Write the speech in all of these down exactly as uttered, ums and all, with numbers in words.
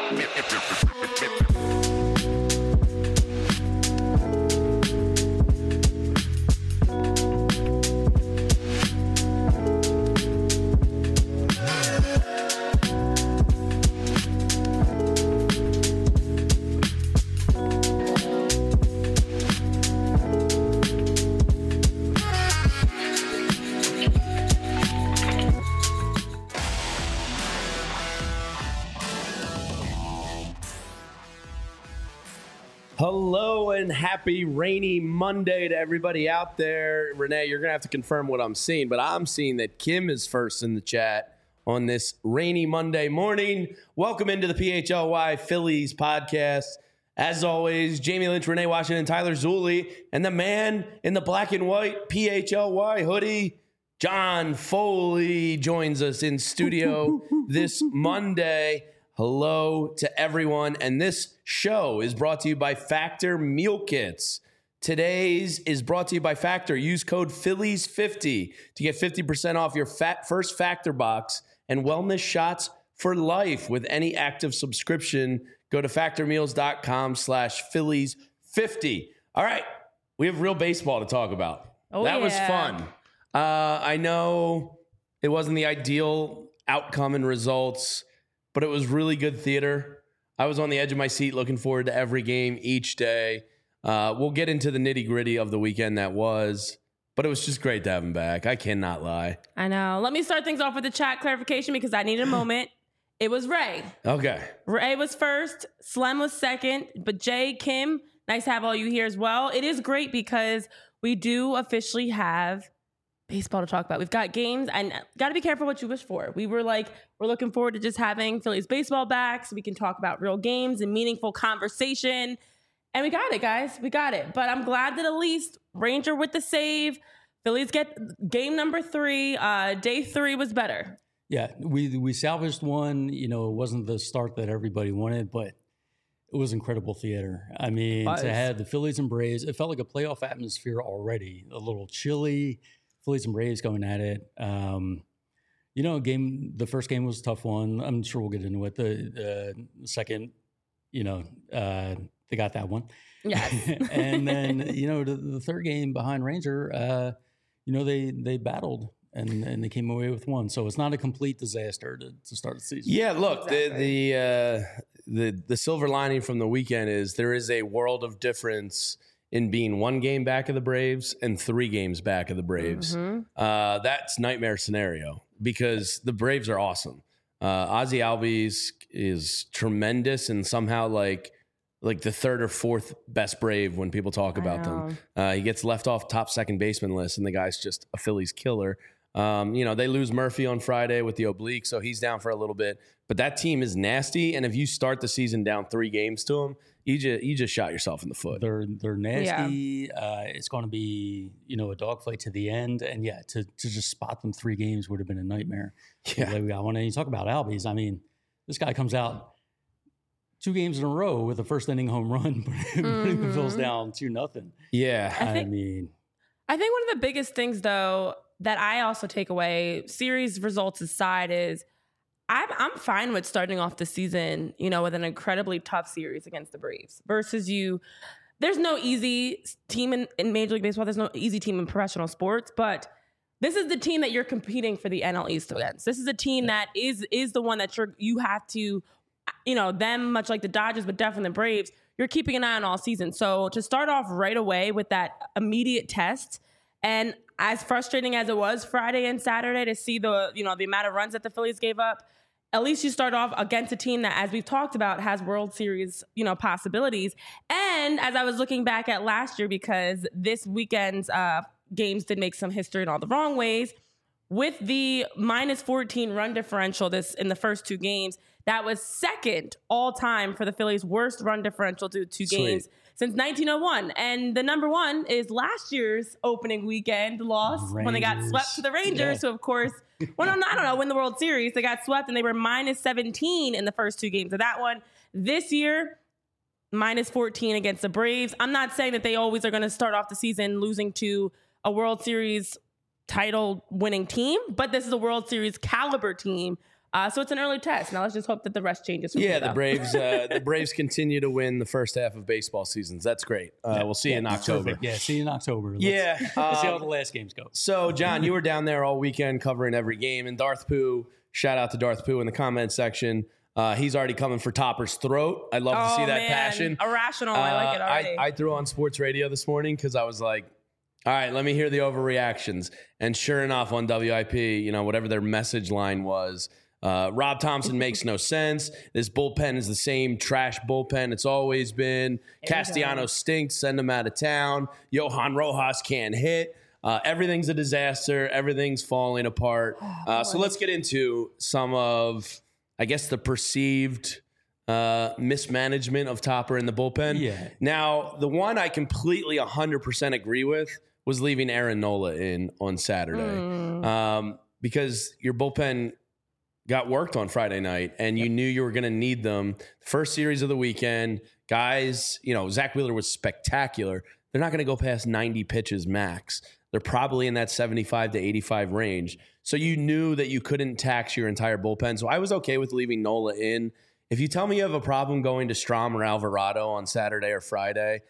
Hello and happy rainy Monday to everybody out there. Renee, you're going to have to confirm what I'm seeing, but I'm seeing that Kim is first in the chat on this rainy Monday morning. Welcome into the P H L Y Phillies podcast. As always, Jamie Lynch, Renee Washington, Tyler Zulli, and the man in the black and white P H L Y hoodie, John Foley, joins us in studio this Monday. Hello to everyone, and this show is brought to you by Factor Meal Kits. Today's is brought to you by Factor. Use code Phillies fifty to get fifty percent off your fat first Factor box and wellness shots for life with any active subscription. Go to factormeals.com slash Phillies 50. All right, we have real baseball to talk about. Oh, that yeah. was fun. Uh, I know it wasn't the ideal outcome and results, but it was really good theater. I was on the edge of my seat looking forward to every game each day. Uh, we'll get into the nitty gritty of the weekend that was, but it was just great to have him back. I cannot lie. I know. Let me start things off with the chat clarification because I needed a moment. It was Ray. Okay. Ray was first. Slem was second. But Jay, Kim, nice to have all you here as well. It is great because we do officially have baseball to talk about. We've got games and got to be careful what you wish for. We were like, we're looking forward to just having Phillies baseball back so we can talk about real games and meaningful conversation. And we got it, guys. We got it. But I'm glad that at least Ranger with the save. Phillies get game number three. Uh, day three was better. Yeah, we we salvaged one. You know, it wasn't the start that everybody wanted, but it was incredible theater. I mean, nice. To have the Phillies and Braves, it felt like a playoff atmosphere already. A little chilly. Phillies and Braves going at it. Um, you know, game. The first game was a tough one. I'm sure we'll get into it. The, uh, the second, you know, uh, they got that one. Yes. And then, you know, the, the third game behind Ranger, uh, you know, they they battled and, and they came away with one. So it's not a complete disaster to, to start the season. Yeah, look, exactly. the the, uh, the the silver lining from the weekend is there is a world of difference in being one game back of the Braves and three games back of the Braves. Mm-hmm. Uh, that's nightmare scenario because the Braves are awesome. Uh, Ozzie Albies is tremendous and somehow like like the third or fourth best Brave when people talk about them. Uh, he gets left off top second baseman list and the guy's just a Phillies killer. Um, you know, they lose Murphy on Friday with the oblique, so he's down for a little bit. But that team is nasty, and if you start the season down three games to them, you just you just shot yourself in the foot. They're they're nasty. Yeah. Uh, it's going to be you know a dogfight to the end, and yeah, to to just spot them three games would have been a nightmare. Yeah, like we got one. And you talk about Albies. I mean, this guy comes out two games in a row with a first inning home run, putting mm-hmm. the Phils down two nothing. Yeah, I, think, I mean, I think one of the biggest things though that I also take away, series results aside, is I'm I'm fine with starting off the season, you know, with an incredibly tough series against the Braves versus you. There's no easy team in, in Major League Baseball. There's no easy team in professional sports, but this is the team that you're competing for the N L East against. This is a team that is is the one that you're you have to, you know, them much like the Dodgers, but definitely the Braves. You're keeping an eye on all season. So to start off right away with that immediate test, and as frustrating as it was Friday and Saturday to see the, you know, the amount of runs that the Phillies gave up, at least you start off against a team that, as we've talked about, has World Series, you know, possibilities. And as I was looking back at last year, because this weekend's uh, games did make some history in all the wrong ways, with the minus fourteen run differential this in the first two games, that was second all time for the Phillies' worst run differential to two Sweet. games since nineteen oh one. And the number one is last year's opening weekend loss Rangers. when they got swept to the Rangers. Yeah. So, of course, well, no, I don't know, win the World Series. They got swept and they were minus seventeen in the first two games of that one. This year, minus fourteen against the Braves. I'm not saying that they always are going to start off the season losing to a World Series title winning team, but this is a World Series caliber team. Uh, Uh, so it's an early test. Now let's just hope that the rest changes. From yeah, here, the though. Braves. Uh, the Braves continue to win the first half of baseball seasons. That's great. Uh, Yeah. we'll see yeah, you in October. Perfect. Yeah, see you in October. Let's, Yeah, let's see how um, the last games go. So, John, you were down there all weekend covering every game, and Darth Pooh. Shout out to Darth Pooh in the comment section. Uh, he's already coming for Topper's throat. I'd love to Oh, see that man. passion. Irrational. I like it Uh, already. I, I threw on sports radio this morning because I was like, all right, let me hear the overreactions. And sure enough, on W I P, you know, whatever their message line was, uh, Rob Thompson makes no sense. This bullpen is the same trash bullpen it's always been. Castellanos stinks. Send him out of town. Johan Rojas can't hit. Uh, everything's a disaster. Everything's falling apart. Uh, so let's get into some of, I guess, the perceived uh, mismanagement of Topper in the bullpen. Yeah. Now, the one I completely one hundred percent agree with was leaving Aaron Nola in on Saturday Mm. um, because your bullpen got worked on Friday night and you knew you were going to need them. First series of the weekend, guys, you know, Zach Wheeler was spectacular. They're not going to go past ninety pitches max. They're probably in that seventy-five to eighty-five range. So you knew that you couldn't tax your entire bullpen. So I was okay with leaving Nola in. If you tell me you have a problem going to Strom or Alvarado on Saturday or Friday,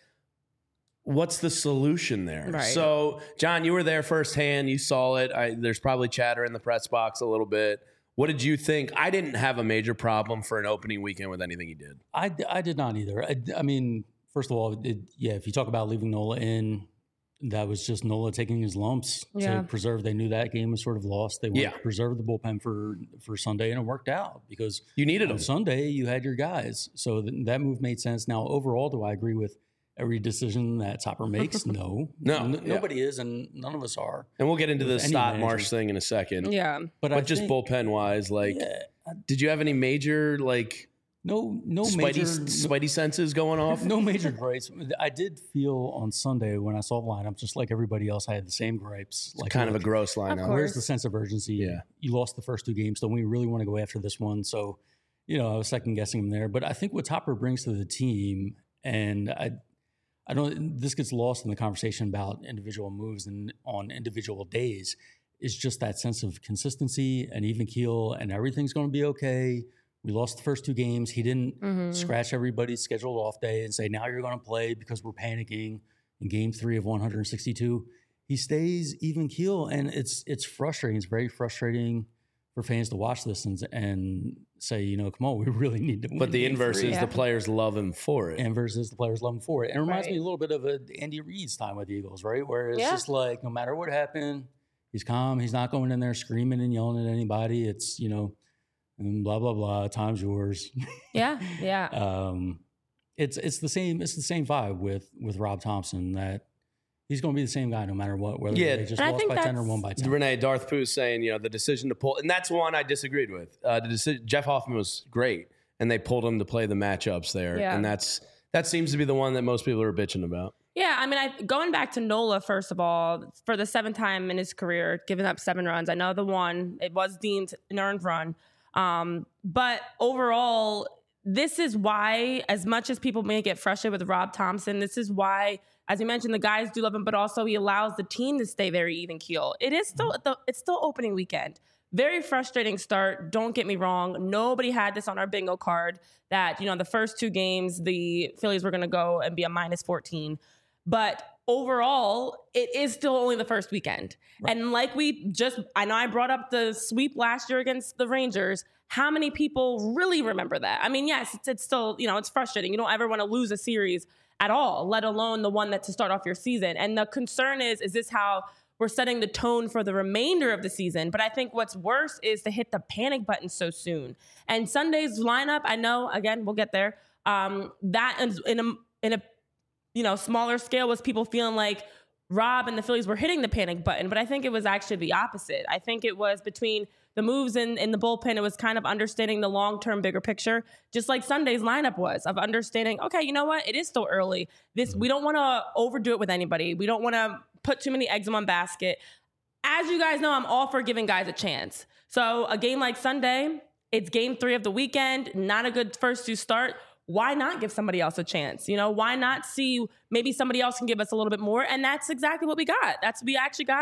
what's the solution there? Right. So, John, you were there firsthand. You saw it. I, there's probably chatter in the press box a little bit. What did you think? I didn't have a major problem for an opening weekend with anything he did. I, I did not either. I, I mean, first of all, it, yeah, if you talk about leaving Nola in, that was just Nola taking his lumps Yeah. to preserve. They knew that game was sort of lost. They wanted Yeah. to preserve the bullpen for, for Sunday, and it worked out because You needed on him. Sunday you had your guys. So th- that move made sense. Now, overall, do I agree with every decision that Topper makes? No. No, N- yeah. Nobody is, and none of us are. And we'll get into the With any Stott manager. Marsh thing in a second. yeah. But, But I just think, bullpen wise, like, yeah, did you have any major, like, no, no Spidey, major, Spidey senses going off? no major gripes. I did feel on Sunday when I saw the lineup, just like everybody else, I had the same gripes. Like, Kind of a look, gross lineup. course. where's the sense of urgency? Yeah. You lost the first two games, so we really want to go after this one. So, you know, I was second guessing him there. But I think what Topper brings to the team, and I, I don't. This gets lost in the conversation about individual moves and on individual days. Is just that sense of consistency and even keel, and everything's going to be okay. We lost the first two games. He didn't Mhm. scratch everybody's scheduled off day and say, now you're going to play because we're panicking in game three of one hundred sixty-two. He stays even keel, and it's it's frustrating. It's very frustrating for fans to watch this and, and say, you know, come on, we really need to win. But the game inverse three. is Yeah. the players love him for it. And versus the players love him for it. And it reminds Right. me a little bit of a Andy Reid's time with the Eagles, right? Where it's Yeah. just like, no matter what happened, he's calm. He's not going in there screaming and yelling at anybody. It's, you know, and blah, blah, blah, time's yours. Yeah. Yeah. um, it's it's the same it's the same vibe with with Rob Thompson, that he's going to be the same guy no matter what, whether Yeah. they just And I lost think by ten or that's- won by ten. Renee, Darth Pooh saying, you know, the decision to pull, and that's one I disagreed with. Uh, the decision, Jeff Hoffman was great, and they pulled him to play the matchups there, Yeah. and that's that seems to be the one that most people are bitching about. Yeah, I mean, I, going back to Nola, first of all, for the seventh time in his career, giving up seven runs. I know the one, it was deemed an earned run. Um, but overall, this is why, as much as people may get frustrated with Rob Thompson, this is why, as you mentioned, the guys do love him, but also he allows the team to stay very even keel. It is still, the, it's still opening weekend. Very frustrating start. Don't get me wrong. Nobody had this on our bingo card that, you know, the first two games, the Phillies were going to go and be a minus fourteen. But overall, it is still only the first weekend. Right. And like we just, I know I brought up the sweep last year against the Rangers. How many people really remember that? I mean, yes, it's, it's still, you know, it's frustrating. You don't ever want to lose a series at all, let alone the one that to start off your season. And the concern is, is this how we're setting the tone for the remainder of the season? But I think what's worse is to hit the panic button so soon. And Sunday's lineup, I know, again, we'll get there. Um, that is in a, in a, you know, smaller scale was people feeling like Rob and the Phillies were hitting the panic button, but I think it was actually the opposite. I think it was between the moves in, in the bullpen, it was kind of understanding the long-term bigger picture, just like Sunday's lineup was, of understanding, okay, you know what? It is still early. This, we don't want to overdo it with anybody. We don't want to put too many eggs in one basket. As you guys know, I'm all for giving guys a chance. So a game like Sunday, it's game three of the weekend, not a good first to start. Why not give somebody else a chance? You know, why not see maybe somebody else can give us a little bit more? And that's exactly what we got. That's we actually got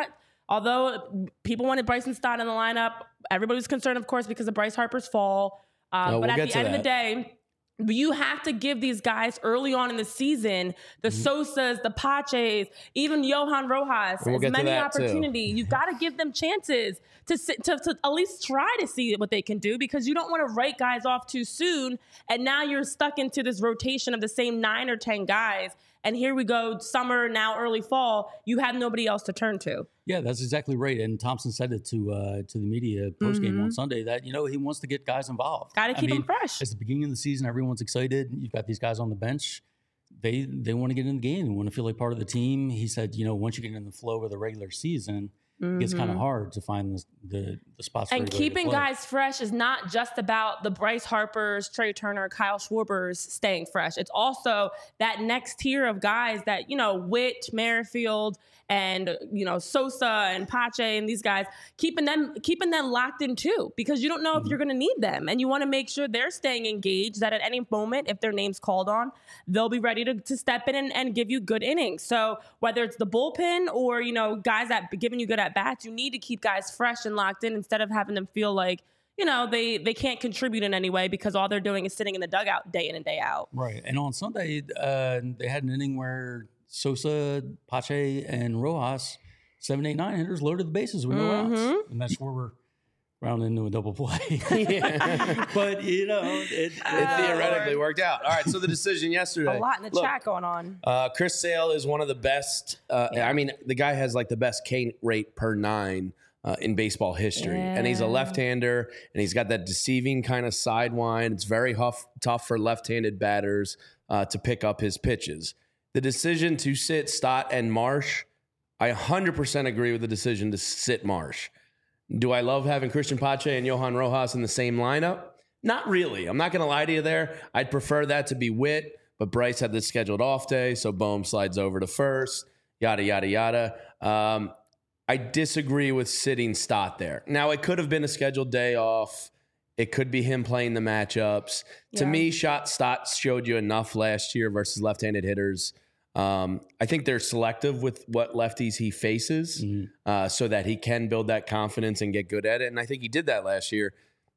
although people wanted Bryson Stott in the lineup, everybody was concerned, of course, because of Bryce Harper's fall. Um, oh, but we'll at the end that. of the day, you have to give these guys early on in the season, the mm-hmm. Sosas, the Paches, even Johan Rojas, we'll as many opportunity. You've got to give them chances to, to to at least try to see what they can do, because you don't want to write guys off too soon. And now you're stuck into this rotation of the same nine or ten guys. And here we go, summer, now early fall, you have nobody else to turn to. Yeah, that's exactly right. And Thompson said it to uh, to the media post-game mm-hmm. on Sunday that, you know, he wants to get guys involved. Got to keep I mean, them fresh. It's the beginning of the season. Everyone's excited. You've got these guys on the bench. They they want to get in the game. They want to feel like part of the team. He said, you know, once you get in the flow of the regular season, mm-hmm. it gets kind of hard to find the the, the spots. And keeping guys fresh is not just about the Bryce Harpers, Trey Turner, Kyle Schwarbers staying fresh. It's also that next tier of guys that, you know, Witt, Merrifield, and, you know, Sosa and Pache and these guys, keeping them keeping them locked in too, because you don't know mm-hmm. if you're going to need them. And you want to make sure they're staying engaged, that at any moment, if their name's called on, they'll be ready to, to step in and, and give you good innings. So whether it's the bullpen or, you know, guys that giving you good at bats, you need to keep guys fresh and locked in instead of having them feel like, you know, they, they can't contribute in any way because all they're doing is sitting in the dugout day in and day out. Right. And on Sunday, uh, they had an inning where Sosa, Pache, and Rojas, seven, eight, nine hitters, loaded the bases with no mm-hmm. outs. And that's where we're rounding into a double play. yeah. But, you know, it, it uh, theoretically worked out. All right, so the decision yesterday. A lot in the Look, chat going on. Uh, Chris Sale is one of the best. Uh, yeah. I mean, the guy has like the best K rate per nine uh, in baseball history. Yeah. And he's a left-hander, and he's got that deceiving kind of sidewind. It's very huff, tough for left-handed batters uh, to pick up his pitches. The decision to sit Stott and Marsh, I one hundred percent agree with the decision to sit Marsh. Do I love having Christian Pache and Johan Rojas in the same lineup? Not really. I'm not going to lie to you there. I'd prefer that to be Witt, but Bryce had this scheduled off day, so Bohm slides over to first, yada, yada, yada. Um, I disagree with sitting Stott there. Now, it could have been a scheduled day off. It could be him playing the matchups. Yeah. To me, shot Stott showed you enough last year versus left-handed hitters. Um, I think they're selective with what lefties he faces mm-hmm. uh, so that he can build that confidence and get good at it. And I think he did that last year.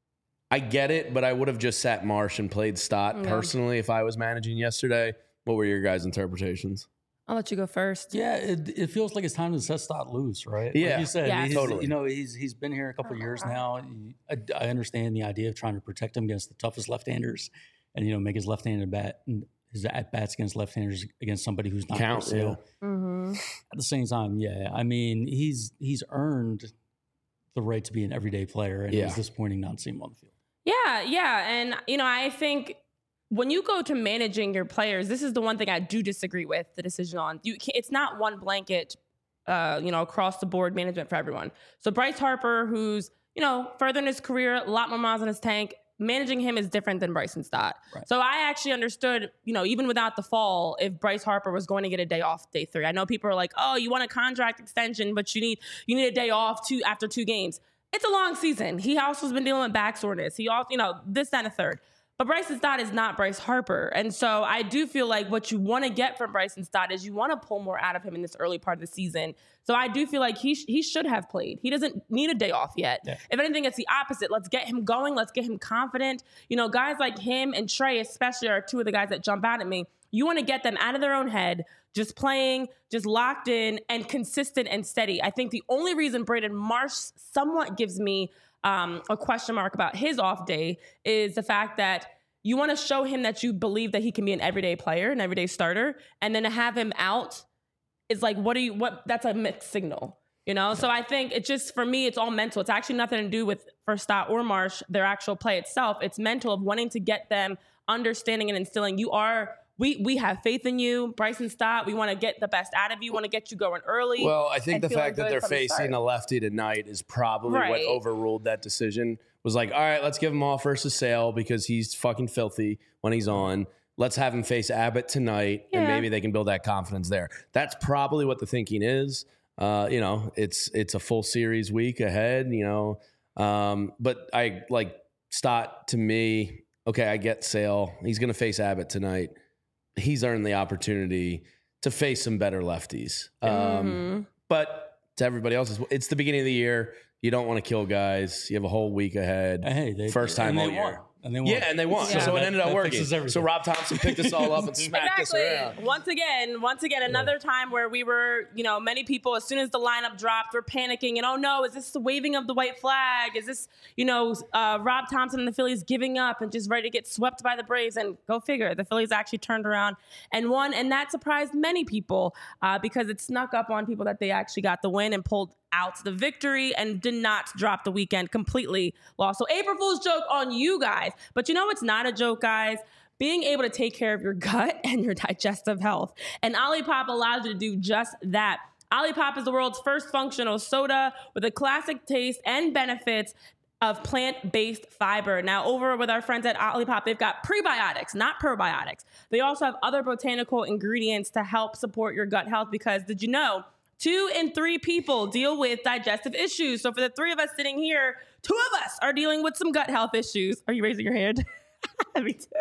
I get it, but I would have just sat Marsh and played Stott yeah. personally if I was managing yesterday. What were your guys' interpretations? I'll let you go first. Yeah, it, it feels like it's time to set Stott loose, right? Yeah. Like you said, yeah. he's, totally. You know, he's he's been here a couple of years now. I, I understand the idea of trying to protect him against the toughest left-handers and, you know, make his left-handed bat and his at-bats against left-handers against somebody who's not count. Yeah. Mm-hmm. At the same time, yeah, I mean, he's he's earned the right to be an everyday player, and yeah. it was disappointing not to see him on the field. Yeah, yeah, and you know, I think when you go to managing your players, this is the one thing I do disagree with the decision on. You, it's not one blanket, uh, you know, across the board management for everyone. So Bryce Harper, who's you know further in his career, a lot more miles in his tank. Managing him is different than Bryson Stott. Right. So I actually understood, you know, even without the fall, if Bryce Harper was going to get a day off day three. I know people are like, oh, you want a contract extension, but you need you need a day off two after two games. It's a long season. He also has been dealing with back soreness. He also, you know, this, that, and a third. But Bryson Stott is not Bryce Harper. And so I do feel like what you want to get from Bryson Stott is you want to pull more out of him in this early part of the season. So I do feel like he sh- he should have played. He doesn't need a day off yet. Yeah. If anything, it's the opposite. Let's get him going. Let's get him confident. You know, guys like him and Trey especially are two of the guys that jump out at me. You want to get them out of their own head, just playing, just locked in and consistent and steady. I think the only reason Braden Marsh somewhat gives me um, a question mark about his off day is the fact that you want to show him that you believe that he can be an everyday player, an everyday starter, and then to have him out is like, what do you, what, that's a mixed signal, you know? So I think it just, for me, it's all mental. It's actually nothing to do with, for Stott or Marsh, their actual play itself. It's mental of wanting to get them understanding and instilling. You are, we we have faith in you, Bryson Stott. We want to get the best out of you, want to get you going early. Well, I think the fact that they're facing a lefty tonight is probably right. what overruled that decision. Was like, all right, let's give him off versus Sale because he's fucking filthy when he's on. Let's have him face Abbott tonight, yeah. and maybe they can build that confidence there. That's probably what the thinking is. Uh, you know, it's it's a full series week ahead, you know. Um, but I like Stott to me, okay, I get Sale. He's going to face Abbott tonight. He's earned the opportunity to face some better lefties. Um, mm-hmm. But to everybody else, it's the beginning of the year. You don't want to kill guys. You have a whole week ahead. Hey, they, First time all they year. Won. And they won. Yeah, and they won. Yeah. So it ended up working. So Rob Thompson picked us all up and smacked exactly. us around. Once again, once again, another time where we were, you know, many people, as soon as the lineup dropped, were panicking. And, oh, no, is this the waving of the white flag? Is this, you know, uh, Rob Thompson and the Phillies giving up and just ready to get swept by the Braves? And go figure, the Phillies actually turned around and won. And that surprised many people uh, because it snuck up on people that they actually got the win and pulled out the victory and did not drop the weekend completely lost. So April Fool's joke on you guys. But you know what's not a joke, guys? Being able to take care of your gut and your digestive health. And Olipop allows you to do just that. Olipop is the world's first functional soda with a classic taste and benefits of plant-based fiber. Now, over with our friends at Olipop, they've got prebiotics, not probiotics. They also have other botanical ingredients to help support your gut health because did you know two in three people deal with digestive issues. So for the three of us sitting here, two of us are dealing with some gut health issues. Are you raising your hand? Me too.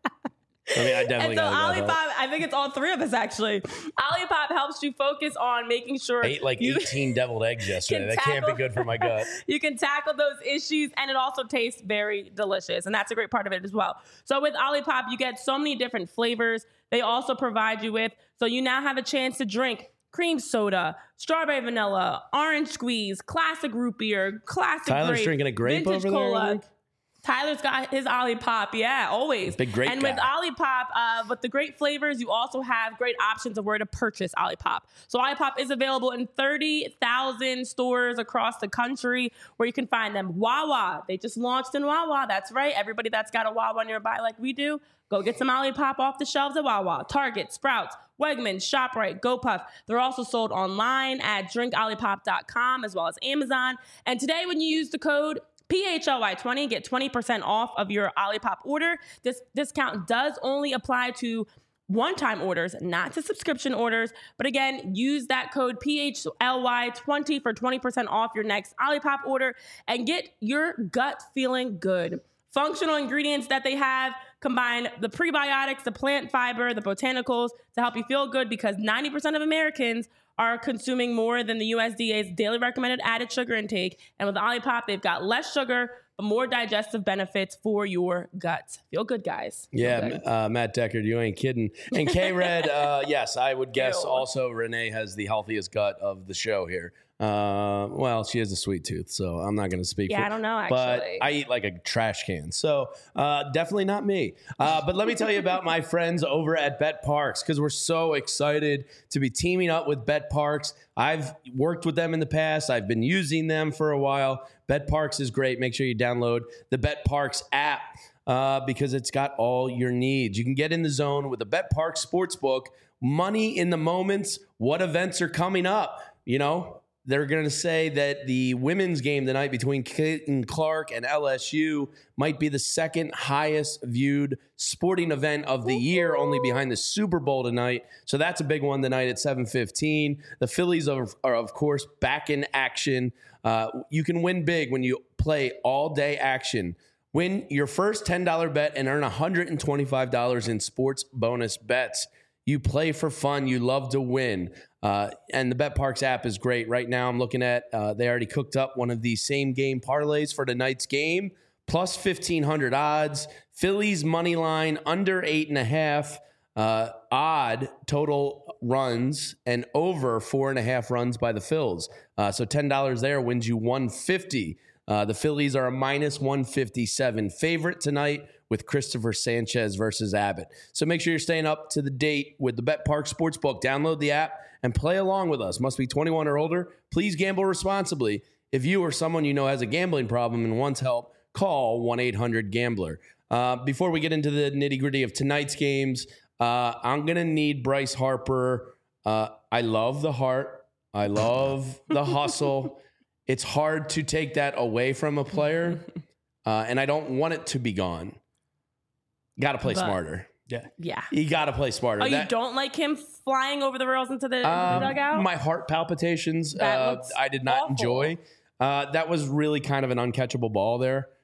I mean, I definitely and so got Olipop, I think it's all three of us actually. Olipop helps you focus on making sure I ate like you eighteen deviled eggs yesterday. That tackle, can't be good for my gut. You can tackle those issues, and it also tastes very delicious, and that's a great part of it as well. So with Olipop, you get so many different flavors. They also provide you with, so you now have a chance to drink cream soda, strawberry vanilla, orange squeeze, classic root beer, classic Tyler's grape, drinking a grape vintage over cola. there. Tyler's got his Olipop, yeah, always. Big grape And guy. with Olipop, uh, with the great flavors, you also have great options of where to purchase Olipop. So Olipop is available in thirty thousand stores across the country where you can find them. Wawa, they just launched in Wawa, that's right. Everybody that's got a Wawa nearby like we do, go get some Olipop off the shelves at Wawa, Target, Sprouts, Wegmans, ShopRite, GoPuff. They're also sold online at drink olipop dot com as well as Amazon. And today when you use the code P H L Y twenty, get twenty percent off of your Olipop order. This discount does only apply to one-time orders, not to subscription orders. But again, use that code P H L Y twenty for twenty percent off your next Olipop order and get your gut feeling good. Functional ingredients that they have combine the prebiotics, the plant fiber, the botanicals to help you feel good because ninety percent of Americans are consuming more than the U S D A's daily recommended added sugar intake. And with Olipop, they've got less sugar, but more digestive benefits for your gut. Feel good, guys. Feel yeah, good. Uh, Matt Deckard, you ain't kidding. And K-Red, uh, yes, I would guess Ew. also Renee has the healthiest gut of the show here. Uh, well, she has a sweet tooth, so I'm not going to speak Yeah, for I don't know, But actually. I eat like a trash can, so uh, definitely not me. Uh, but let me tell you about my friends over at Bet Parks because we're so excited to be teaming up with Bet Parks. I've worked with them in the past. I've been using them for a while. Bet Parks is great. Make sure you download the Bet Parks app uh, because it's got all your needs. You can get in the zone with the Bet Parks Sportsbook. Money in the moments. What events are coming up? You know, they're going to say that the women's game tonight between Caitlin Clark and L S U might be the second highest viewed sporting event of the year, only behind the Super Bowl tonight. So that's a big one tonight at seven fifteen. The Phillies are, are of course, back in action. Uh, you can win big when you play all-day action. Win your first ten dollars bet and earn one hundred twenty-five dollars in sports bonus bets. You play for fun. You love to win. Uh, and the Bet Parks app is great. Right now I'm looking at, uh, they already cooked up one of the same game parlays for tonight's game, plus fifteen hundred odds. Phillies money line under eight and a half, uh, odd total runs, and over four and a half runs by the Phils. Uh, so ten dollars there wins you one hundred fifty dollars. Uh, the Phillies are a minus one fifty-seven favorite tonight with Christopher Sanchez versus Abbott. So make sure you're staying up to the date with the Bet Park Sportsbook. Download the app and play along with us. Must be twenty-one or older. Please gamble responsibly. If you or someone you know has a gambling problem and wants help, call one eight hundred gambler. Uh, before we get into the nitty-gritty of tonight's games, uh, I'm going to need Bryce Harper. Uh, I love the heart. I love the hustle. It's hard to take that away from a player, uh, and I don't want it to be gone. Got to play But- smarter. Yeah. Yeah. You got to play smarter. Oh, you That- don't like him flying over the rails into the um, dugout? My heart palpitations, That uh, looks I did not awful. enjoy. Uh, that was really kind of an uncatchable ball there. Yeah.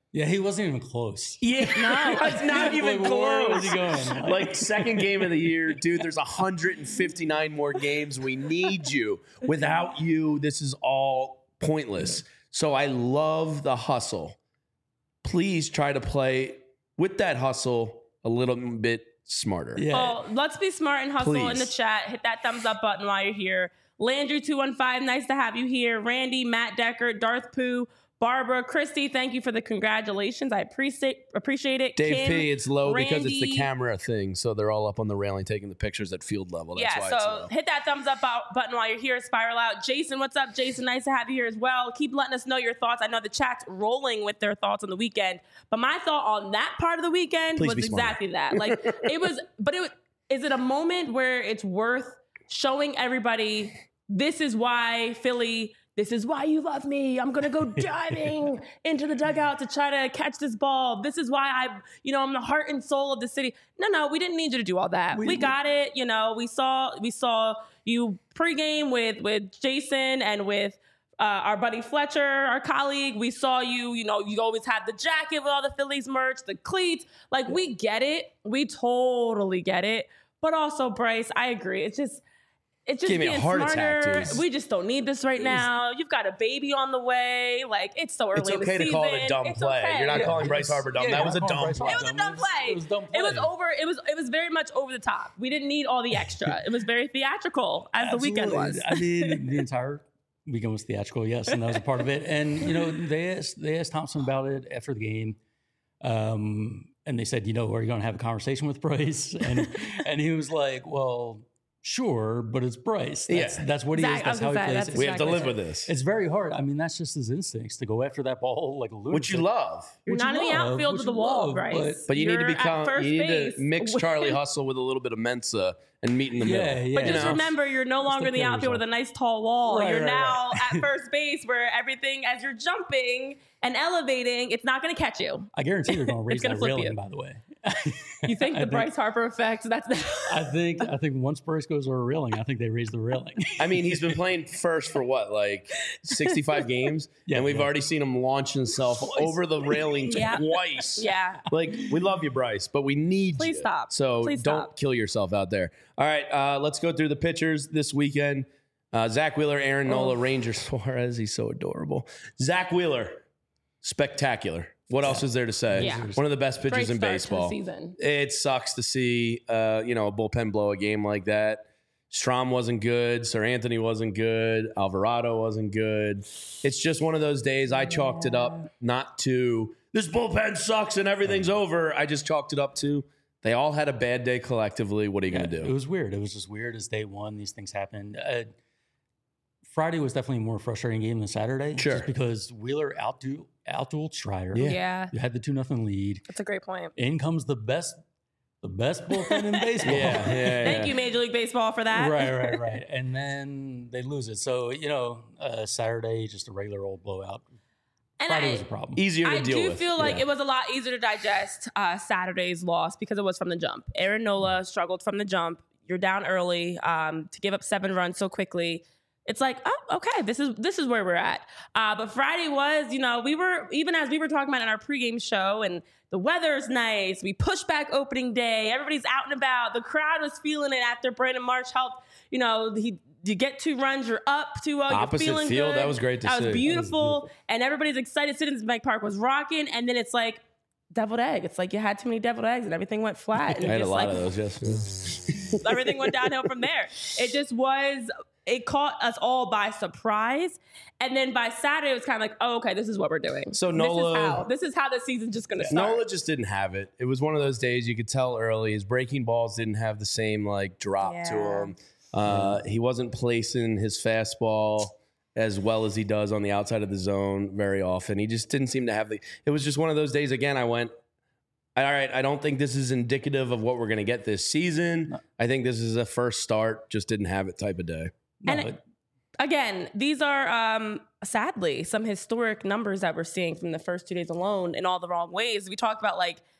Yeah, he wasn't even close. Yeah, no, it's not even like, close. Where was he going? Like second game of the year, dude. There's one hundred fifty-nine more games. We need you. Without you, this is all pointless. So I love the hustle. Please try to play with that hustle a little bit smarter. Yeah. Oh, let's be smart and hustle Please. in the chat. Hit that thumbs up button while you're here. Landry two one five, nice to have you here. Randy, Matt Decker, Darth Pooh, Barbara, Christy, thank you for the congratulations. I appreciate appreciate it. Dave Kim, P, it's low Randy, because it's the camera thing. So they're all up on the railing taking the pictures at field level. That's yeah, why so it's low. hit that thumbs up button while you're here. Spiral out. Jason, what's up, Jason? Nice to have you here as well. Keep letting us know your thoughts. I know the chat's rolling with their thoughts on the weekend, but my thought on that part of the weekend Please was exactly that. Like it was, but it was, is it a moment where it's worth showing everybody this is why Philly, this is why you love me. I'm going to go diving into the dugout to try to catch this ball. This is why I, you know, I'm the heart and soul of the city. No, no, we didn't need you to do all that. We, we got it. You know, we saw, we saw you pregame with, with Jason and with uh, our buddy Fletcher, our colleague. We saw you, you know, you always had the jacket with all the Phillies merch, the cleats. Like we get it. We totally get it. But also, Bryce, I agree. It's just, It's just Gave me being a heart smarter. attack, dude. We just don't need this right now. You've got a baby on the way. Like, it's so early It's in the okay to season. call it a dumb It's play. okay. You're not Yeah. calling Bryce Harper dumb. Yeah, that was a calling dumb Bryce play. It was a dumb play. It was a dumb It was play. over. It was it was very much over the top. We didn't need all the extra. It was very theatrical, as the weekend was. I mean, the entire weekend was theatrical, yes, and that was a part of it. And you know, they asked they asked Thompson about it after the game, um, and they said, you know, are you going to have a conversation with Bryce? And and he was like, well, sure, but it's Bryce. That's, Yeah. that's what he Zach, is. I That's was how he gonna say, plays. that's We have to exactly live it. with this. It's very hard. I mean, that's just his instincts to go after that ball like a lunatic. Which you love. You're Which not you in the love, outfield which to the you wall, love, Bryce. but- But you need to You're at become. first You need base. to mix Charlie Hustle with a little bit of Mensa and meet in the Yeah, middle. yeah. But You just know? remember, you're no longer in the take care of outfield with a yourself. nice tall wall. Right, you're right, now at first base where everything, as you're jumping and elevating, it's not going to catch you. I guarantee they're going to raise gonna that flip railing. you. By the way, You think I the Bryce Harper effect? That's the I think I think once Bryce goes over a railing, I think they raise the railing. I mean, he's been playing first for what, like sixty-five games? Yeah, and we've yeah. already seen him launch himself over the railing Yeah. twice. yeah. Like, we love you, Bryce, but we need Please you. stop. So Please don't stop. kill yourself out there. All right, uh, let's go through the pitchers this weekend. Uh, Zach Wheeler, Aaron Nola, Ranger Suarez. He's so adorable. Zach Wheeler, spectacular. What else is there to say? Yeah. One of the best pitchers Great in start to the baseball. season. It sucks to see, uh, you know, a bullpen blow a game like that. Strom wasn't good. Sir Anthony wasn't good. Alvarado wasn't good. It's just one of those days. I chalked it up not to this bullpen sucks and everything's over. I just chalked it up to they all had a bad day collectively. What are you Yeah, going to It do? was weird. It was just weird as day one. These things happened. Uh, Friday was definitely a more frustrating game than Saturday. Sure. Just because Wheeler outdu- outdueled Strider. Yeah. Yeah. You had the two nothing lead. That's a great point. In comes the best, the best bullpen in baseball. Yeah, yeah, Thank you, Major League Baseball, for that. Right, right, right. And then they lose it. So, you know, uh, Saturday, just a regular old blowout. And Friday I, was a problem. Easier to I deal do with. feel like Yeah. it was a lot easier to digest uh, Saturday's loss because it was from the jump. Aaron Nola struggled from the jump. You're down early um, to give up seven runs so quickly. It's like, oh, okay, this is this is where we're at. Uh, but Friday was, you know, we were, even as we were talking about in our pregame show, and the weather's nice. We pushed back opening day. Everybody's out and about. The crowd was feeling it after Brandon Marsh helped. You know, he you get two runs, you're up two oh, you're Opposite feeling field, good. that was great to That see. was That was beautiful. And everybody's excited. Citizens Bank Park was rocking. And then it's like, deviled egg. It's like you had too many deviled eggs and everything went flat. And I you're had a just lot like, of those yesterday. everything went downhill from there. It just was, it caught us all by surprise. And then by Saturday, it was kind of like, oh, okay, this is what we're doing. So this Nola- is how, this is how the season's just going to start. Nola just didn't have it. It was one of those days you could tell early. His breaking balls didn't have the same like drop to Yeah. him. Uh, he wasn't placing his fastball as well as he does on the outside of the zone very often. He just didn't seem to have the. It was just one of those days. Again, I went, all right. I don't think this is indicative of what we're going to get this season. No. I think this is a first start. Just didn't have it type of day. No, And it- Again, these are um, sadly some historic numbers that we're seeing from the first two days alone in all the wrong ways. We talked about like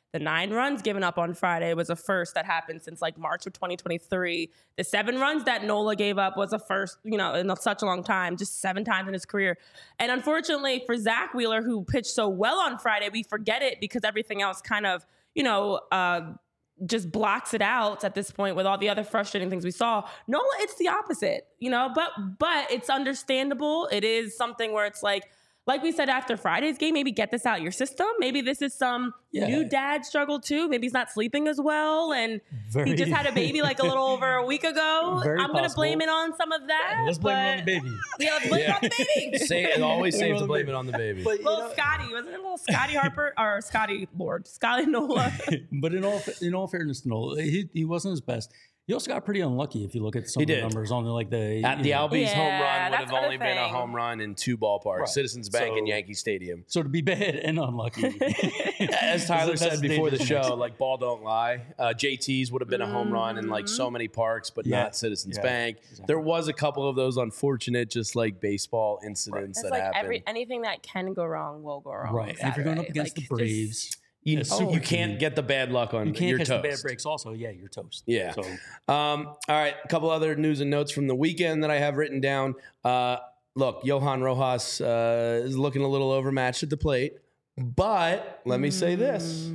The nine runs given up on Friday was a first that happened since like March of twenty twenty-three. The seven runs that Nola gave up was a first, you know, in such a long time, just seven times in his career. And unfortunately for Zach Wheeler, who pitched so well on Friday, we forget it because everything else kind of, you know, uh, just blocks it out at this point with all the other frustrating things we saw. Nola, it's the opposite, you know, but but it's understandable. It is something where it's like, like we said after Friday's game, maybe get this out your system. Maybe this is some yeah. new dad struggle too. Maybe he's not sleeping as well, and Very, he just had a baby like a little over a week ago. I'm going to blame it on some of that. Yeah, let's blame it on the baby. Yeah, let's blame yeah. it on the baby. Say it always safe to blame it on the baby. But, little know, Scotty, wasn't it little Scotty Harper or Scotty Lord, Scotty Nola? But in all in all fairness to Nola, he he wasn't his best. He also got pretty unlucky if you look at some he of the did. numbers on the, like the at the know. Albies yeah, home run would have only thing. been a home run in two ballparks, right. Citizens Bank so, and Yankee Stadium. So to be bad and unlucky, as Tyler said before the show, mix. like ball don't lie. Uh, J T's would have been a home run in like so many parks, but yeah. not Citizens yeah, Bank. Exactly. There was a couple of those unfortunate, just like baseball incidents right. that like happened. Every, anything that can go wrong will go wrong. Right, and if you're going up against like, the Braves. Just, You, oh, you can't get the bad luck on you can't your catch toast. the bad breaks also. Yeah, you're toast. Yeah. So. Um, all right, a couple other news and notes from the weekend that I have written down. Uh, look, Johan Rojas uh, is looking a little overmatched at the plate, but let me say this.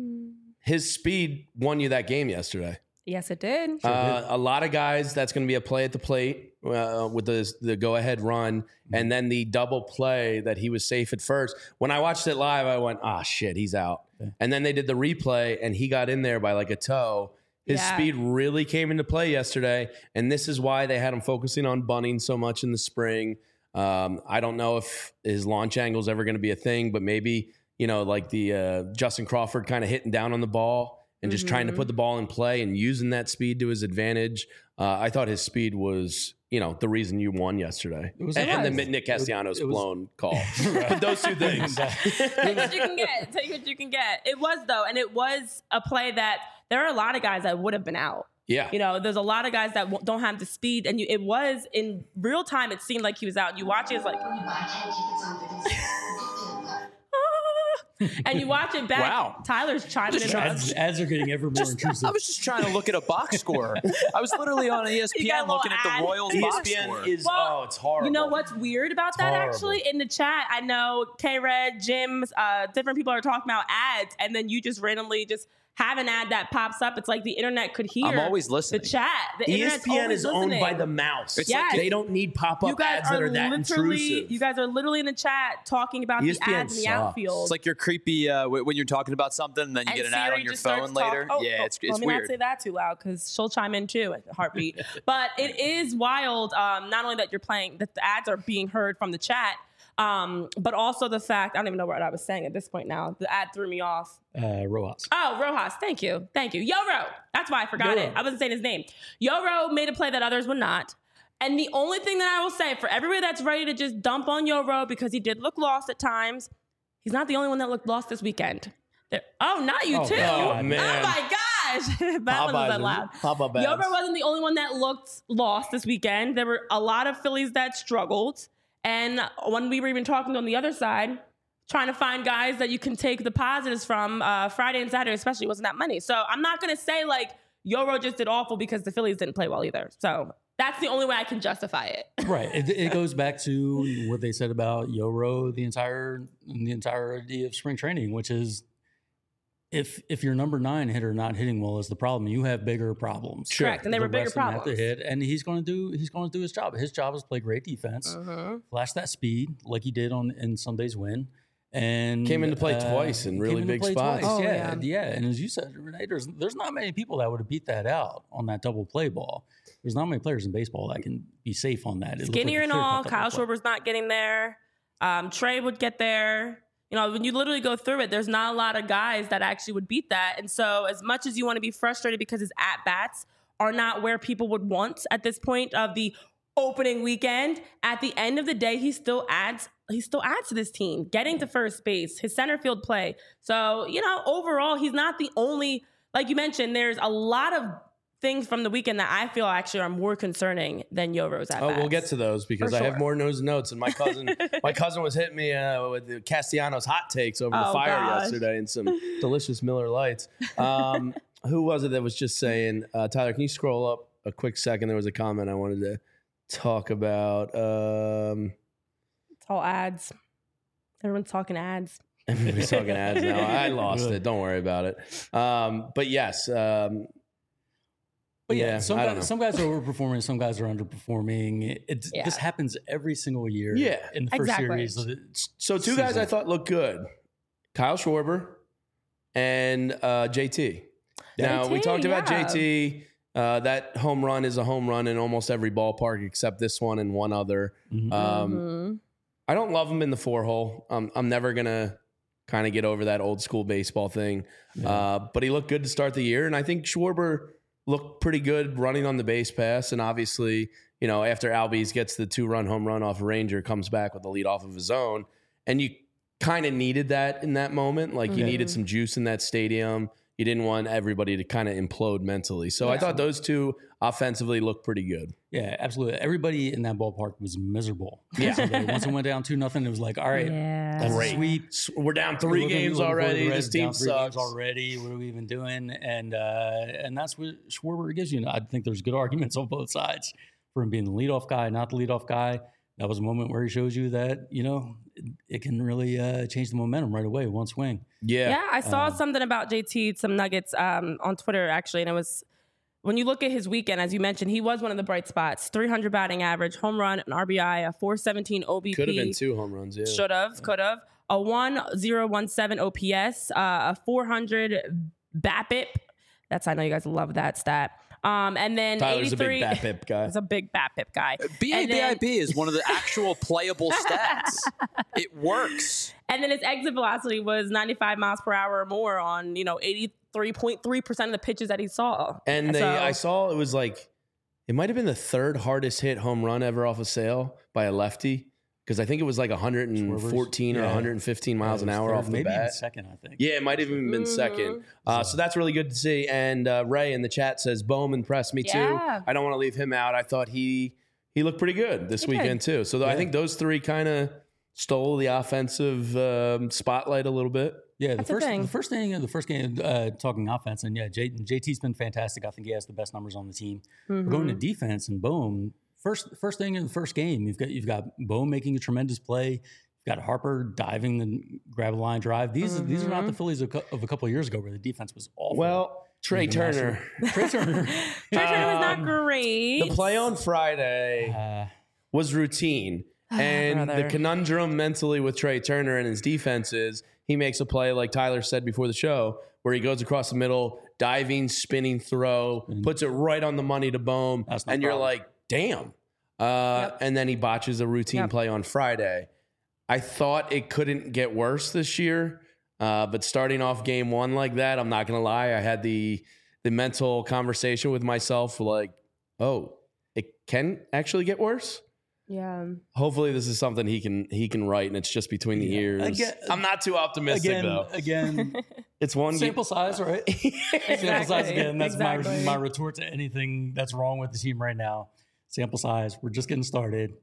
His speed won you that game yesterday. Yes, it did. Sure uh, did. A lot of guys, that's going to be a play at the plate uh, with the, the go-ahead run, mm-hmm. and then the double play that he was safe at first. When I watched it live, I went, ah, oh, shit, he's out. Yeah. And then they did the replay, and he got in there by like a toe. His yeah. speed really came into play yesterday, and this is why they had him focusing on bunting so much in the spring. Um, I don't know if his launch angle is ever going to be a thing, but maybe, you know, like the uh, Justin Crawford kind of hitting down on the ball and just mm-hmm. trying to put the ball in play and using that speed to his advantage. Uh, I thought his speed was, you know, the reason you won yesterday. It was and, and then Nick Castellanos' it was, blown call. But those two things. Take what you can get. Take what you can get. It was, though, and it was a play that there are a lot of guys that would have been out. Yeah. You know, there's a lot of guys that w- don't have the speed, and you, it was in real time, it seemed like he was out. You watch it, it's like... and you watch it back. Wow. Tyler's chiming in. Ads, ads are getting ever more just, intrusive. I was just trying to look at a box score. I was literally on E S P N looking at the Royals box score. Is, well, oh, it's horrible. You know what's weird about it's that, horrible. actually? In the chat, I know K-Red, Jim's, uh, different people are talking about ads, and then you just randomly just have an ad that pops up. It's like the internet could hear. I'm always listening. The chat. The E S P N is listening. owned by the mouse. It's yes. like they don't need pop-up ads that are that intrusive. You guys are literally in the chat talking about E S P N the ads in the sucks. outfield. It's like you're creepy uh, when you're talking about something, and then you and get an Siri ad on your phone talk, later. Oh, yeah, oh, it's, it's let me weird. not say that too loud because she'll chime in too at heartbeat. But it is wild. Um, not only that you're playing, that the ads are being heard from the chat. Um, but also the fact, I don't even know what I was saying at this point now. The ad threw me off. Uh, Rojas. Oh, Rojas. Thank you. Thank you. Yoro. That's why I forgot Yoro. it. I wasn't saying his name. Yoro made a play that others would not. And the only thing that I will say for everybody that's ready to just dump on Yoro because he did look lost at times, he's not the only one that looked lost this weekend. There, oh, not you oh, too. God, man. Oh my gosh. that Popeyes wasn't that loud. Pop-up ads. Yoro wasn't the only one that looked lost this weekend. There were a lot of Phillies that struggled. And when we were even talking on the other side, trying to find guys that you can take the positives from, uh, Friday and Saturday especially wasn't that many. So I'm not going to say like Yoro just did awful because the Phillies didn't play well either. So that's the only way I can justify it. Right. It, it goes back to what they said about Yoro the entire the entirety of spring training, which is if if your number nine hitter not hitting well is the problem, you have bigger problems. Sure. Correct, and they the were bigger rest of them problems. Have to hit, and he's going to do he's going to do his job. His job is to play great defense, uh-huh. flash that speed like he did on in Sunday's win, and came into play uh, twice in really big spots. Oh, yeah, yeah, yeah. And as you said, Renee, there's there's not many people that would have beat that out on that double play ball. There's not many players in baseball that can be safe on that. It Skinnier like and all, Kyle Schwarber's not getting there. Um, Trey would get there. You know, when you literally go through it, there's not a lot of guys that actually would beat that. And so as much as you want to be frustrated because his at-bats are not where people would want at this point of the opening weekend, at the end of the day, he still adds he still adds to this team, getting to first base, his center field play. So, you know, overall, he's not the only, like you mentioned, there's a lot of things from the weekend that I feel actually are more concerning than Yovo's at Oh, bats. we'll get to those because For I have sure. more news notes. And my cousin, my cousin was hitting me uh, with the Castellanos hot takes over the Oh, fire gosh. yesterday and some delicious Miller Lights. Um, who was it that was just saying, uh, Tyler, can you scroll up a quick second? There was a comment I wanted to talk about. Um, It's all ads. Everyone's talking ads. everybody's talking ads now. I lost it. Don't worry about it. Um, but yes. Um, But yeah, Yeah, some I don't know. guys, some guys are overperforming, some guys are underperforming. It, it- Yeah. This happens every single year. Yeah, in the first exactly. series. Of the So two guys season. I thought looked good: Kyle Schwarber and uh, J T. Now we J T, talked about yeah. J T. Uh, that home run is a home run in almost every ballpark except this one and one other. Mhm. Um, Mhm. I don't love him in the four hole. Um, I'm never gonna kind of get over that old school baseball thing. Yeah. Uh, but he looked good to start the year, and I think Schwarber looked pretty good running on the base pass. And obviously, you know, after Albies gets the two run home run off Ranger, comes back with the lead off of his own, and you kind of needed that in that moment. Like you Mhm. needed some juice in that stadium. You didn't want everybody to kind of implode mentally. So I Yeah. thought those two offensively looked pretty good. Yeah, absolutely. Everybody in that ballpark was miserable. Yeah. Yesterday. Once it went down two nothing, it was like, all right, Yeah. that's a Great. sweep. S- We're down three We're looking- games looking for the already. Reds This team down three games sucks. already. What are we even doing? And uh, and that's what Schwarber gives you. And I think there's good arguments on both sides for him being the leadoff guy, not the leadoff guy. That was a moment where he shows you that, you know, it, it can really uh, change the momentum right away, one swing. Yeah. Yeah, I saw Um, something about J T, some nuggets um, on Twitter actually, and it was when you look at his weekend, as you mentioned, he was one of the bright spots. three hundred batting average, home run, an R B I, a four seventeen O B P. Could have been two home runs. Yeah. Should have, could have. A one oh one seven O P S, uh, a four hundred BAPIP. That's I know you guys love that stat. Um, and then Tyler's a eighty-three. big BAPIP guy. He's a big BAPIP guy. B A And B I then- B is one of the actual playable stats. It works. And then his exit velocity was ninety-five miles per hour or more on, you know, eighty-three point three percent of the pitches that he saw. And they, So- I saw it was like, it might have been the third hardest hit home run ever off a sale by a lefty. Because I think it was like one hundred fourteen or Yeah. one hundred fifteen miles Yeah, an it was hour third, off the maybe even bat. second, I think. Yeah, it might have even been Mhm. second. Uh, so that's really good to see. And uh, Ray in the chat says, Bohm impressed me Yeah. too. I don't want to leave him out. I thought he he looked pretty good this He did. weekend too. So th- I Yeah. think those three kind of stole the offensive um, spotlight a little bit. Yeah, the That's the first thing. the first thing the first game uh, talking offense, and yeah, J, JT's been fantastic. I think he has the best numbers on the team. We're going to defense and Bohm. First first thing in the first game, you've got you've got Bohm making a tremendous play. You've got Harper diving and grab a line drive. These are these are not the Phillies of, cou- of a couple of years ago where the defense was awful. Well, Trey The master- Turner. Trey Turner. Trey Turner was not Um, great. The play on Friday Uh, was routine. And the brother. conundrum mentally with Trey Turner and his defense is he makes a play, like Tyler said before the show, where he goes across the middle, diving, spinning throw, puts it right on the money to Bohm. That's no And you're problem. like, damn. Uh, And then he botches a routine Yep. play on Friday. I thought it couldn't get worse this year. Uh, but starting off game one like that, I'm not going to lie. I had the the mental conversation with myself like, oh, it can actually get worse. yeah. Hopefully this is something he can he can write and it's just between the Yeah. ears. Again- I'm not too optimistic again, though. again, It's one sample size, right? Sample size again. That's Exactly. my my retort to anything that's wrong with the team right now. Sample size. We're just getting started.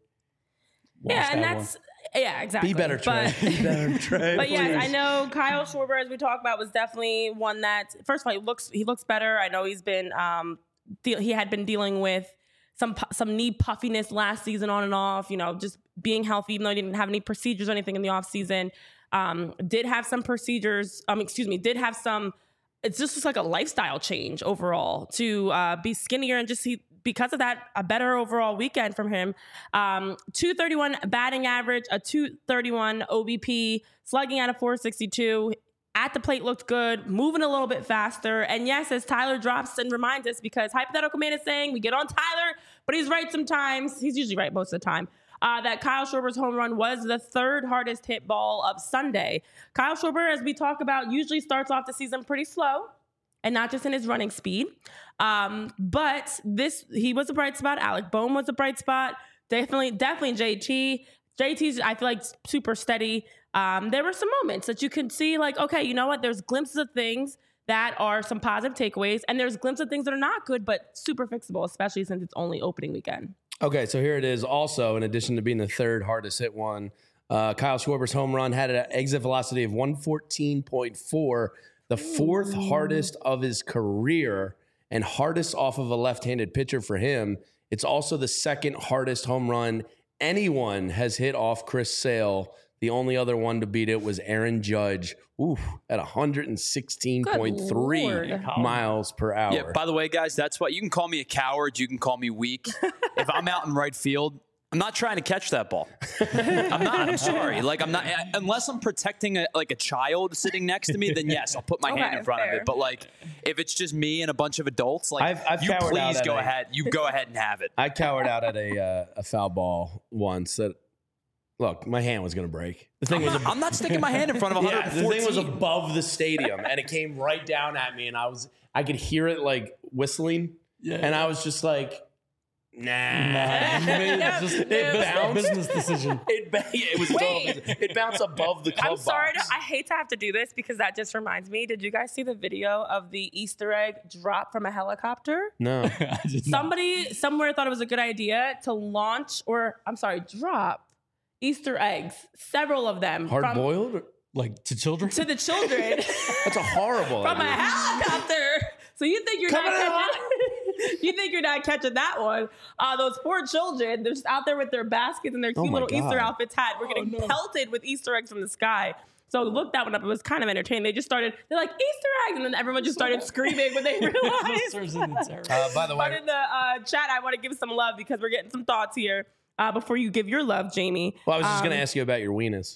Watch Yeah, and that that's yeah, exactly. Be better, Trey. But, Be better, Trey. but yes, I please. know Kyle Schwarber, as we talked about, was definitely one that first of all he looks he looks better. I know he's been um de- he had been dealing with some pu- some knee puffiness last season on and off. You know, just being healthy, even though he didn't have any procedures or anything in the off season. Um, did have some procedures. Um, excuse me, did have some. It's just like a lifestyle change overall to uh, be skinnier and just see because of that a better overall weekend from him. Um, two thirty-one batting average, a two thirty-one O B P, slugging at a four sixty-two. At the plate looked good, moving a little bit faster. And yes, as Tyler drops and reminds us, because Hypothetical Man is saying we get on Tyler, but he's right sometimes. He's usually right most of the time. Uh, that Kyle Schwarber's home run was the third hardest hit ball of Sunday. Kyle Schwarber, as we talk about, usually starts off the season pretty slow, and not just in his running speed. Um, but this, he was a bright spot. Alec Bohm was a bright spot. Definitely, definitely J T. J T's, I feel like, super steady. Um, there were some moments that you can see, like, okay, you know what? There's glimpses of things that are some positive takeaways. And there's glimpses of things that are not good, but super fixable, especially since it's only opening weekend. Okay, so here it is. Also, in addition to being the third hardest hit one, uh, Kyle Schwarber's home run had an exit velocity of one fourteen point four, the fourth Ooh. hardest of his career and hardest off of a left-handed pitcher for him. It's also the second hardest home run anyone has hit off Chris Sale. The only other one to beat it was Aaron Judge, ooh, at one sixteen point three miles per hour. Yeah, by the way, guys, that's why you can call me a coward. You can call me weak. If I'm out in right field, I'm not trying to catch that ball. I'm not. I'm sorry. Like I'm not. Unless I'm protecting a, like a child sitting next to me, then yes, I'll put my okay, hand in front fair. of it. But like, if it's just me and a bunch of adults, like I've, I've you please go a, ahead. You go ahead and have it. I cowered out at a uh, a foul ball once. That look, my hand was going to break. The thing I'm was, not, I'm not sticking my hand in front of one fourteen. Yeah, the thing was above the stadium, and it came right down at me, and I was I could hear it like whistling, yeah, and I was just like. Nah, nah. It, just, it bounced. Business decision. It, it was Wait. It bounced above the club I'm sorry. box. To, I hate to have to do this because that just reminds me. Did you guys see the video of the Easter egg drop from a helicopter? No. Somebody not. somewhere thought it was a good idea to launch, or I'm sorry, drop Easter eggs. Several of them. Hard boiled, like to children. To the children. That's a horrible from idea. a helicopter. So you think you're Coming not catching? You think you're not catching that one? Uh, those poor children, they're just out there with their baskets and their cute oh little God. Easter outfits hat. We're getting oh, no. pelted with Easter eggs from the sky. So look that one up. It was kind of entertaining. They just started, they're like, Easter eggs. And then everyone just started screaming when they realized. uh, by the way. But in the uh, chat, I want to give some love because we're getting some thoughts here uh, before you give your love, Jamie. Well, I was just um, going to ask you about your weenus.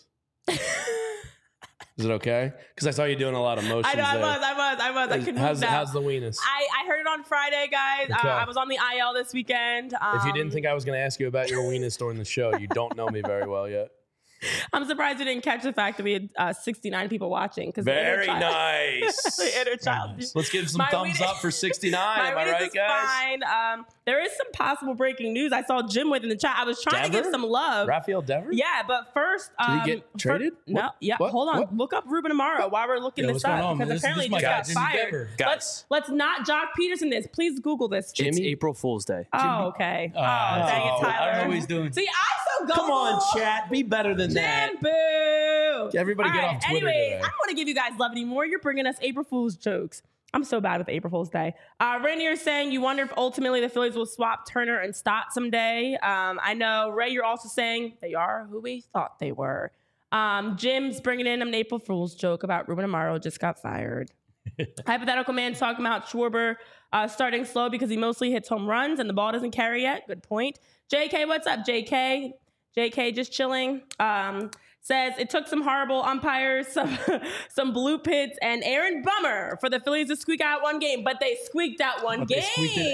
Is it okay? Because I saw you doing a lot of motions. I know, there. I was, I was, I was. I couldn't how's, move how's the weenus? I, I heard it on Friday, guys. Okay. Uh, I was on the I L this weekend. Um, if you didn't think I was going to ask you about your weenus during the show, you don't know me very well yet. I'm surprised you didn't catch the fact that we had uh, sixty-nine people watching. Very nice. The inner child. Nice. Let's give some my thumbs up for sixty-nine. Am I right, is guys? Fine. Um, there is some possible breaking news. I saw Jim with in the chat. I was trying Dever? to give some love. Rafael Devers? Yeah, but first, um, did he get traded? For, no, yeah. What? Hold on. What? Look up Ruben Amaro while we're looking yeah, this up because this, apparently this he just got guy. fired. Let's let's not Jock Peterson this. Please Google this. Jimmy? It's April Fool's Day. Oh, okay. Uh, oh, dang it, Tyler. I don't know what he's doing. See, I so go. Come on, chat. Be better than Jim, that. Boo. Everybody All get right, off Twitter anyway, today. I don't want to give you guys love anymore. You're bringing us April Fool's jokes. I'm so bad with April Fool's Day. Uh, Rainier is saying you wonder if ultimately the Phillies will swap Turner and Stott someday. Um, I know, Ray, you're also saying they are who we thought they were. Um, Jim's bringing in an April Fool's joke about Ruben Amaro just got fired. Hypothetical Man's talking about Schwarber uh, starting slow because he mostly hits home runs and the ball doesn't carry yet. Good point. J K, what's up, J K? J K just chilling. Um, says it took some horrible umpires, some some blue pits, and Aaron Bummer for the Phillies to squeak out one game, but they squeaked out one but game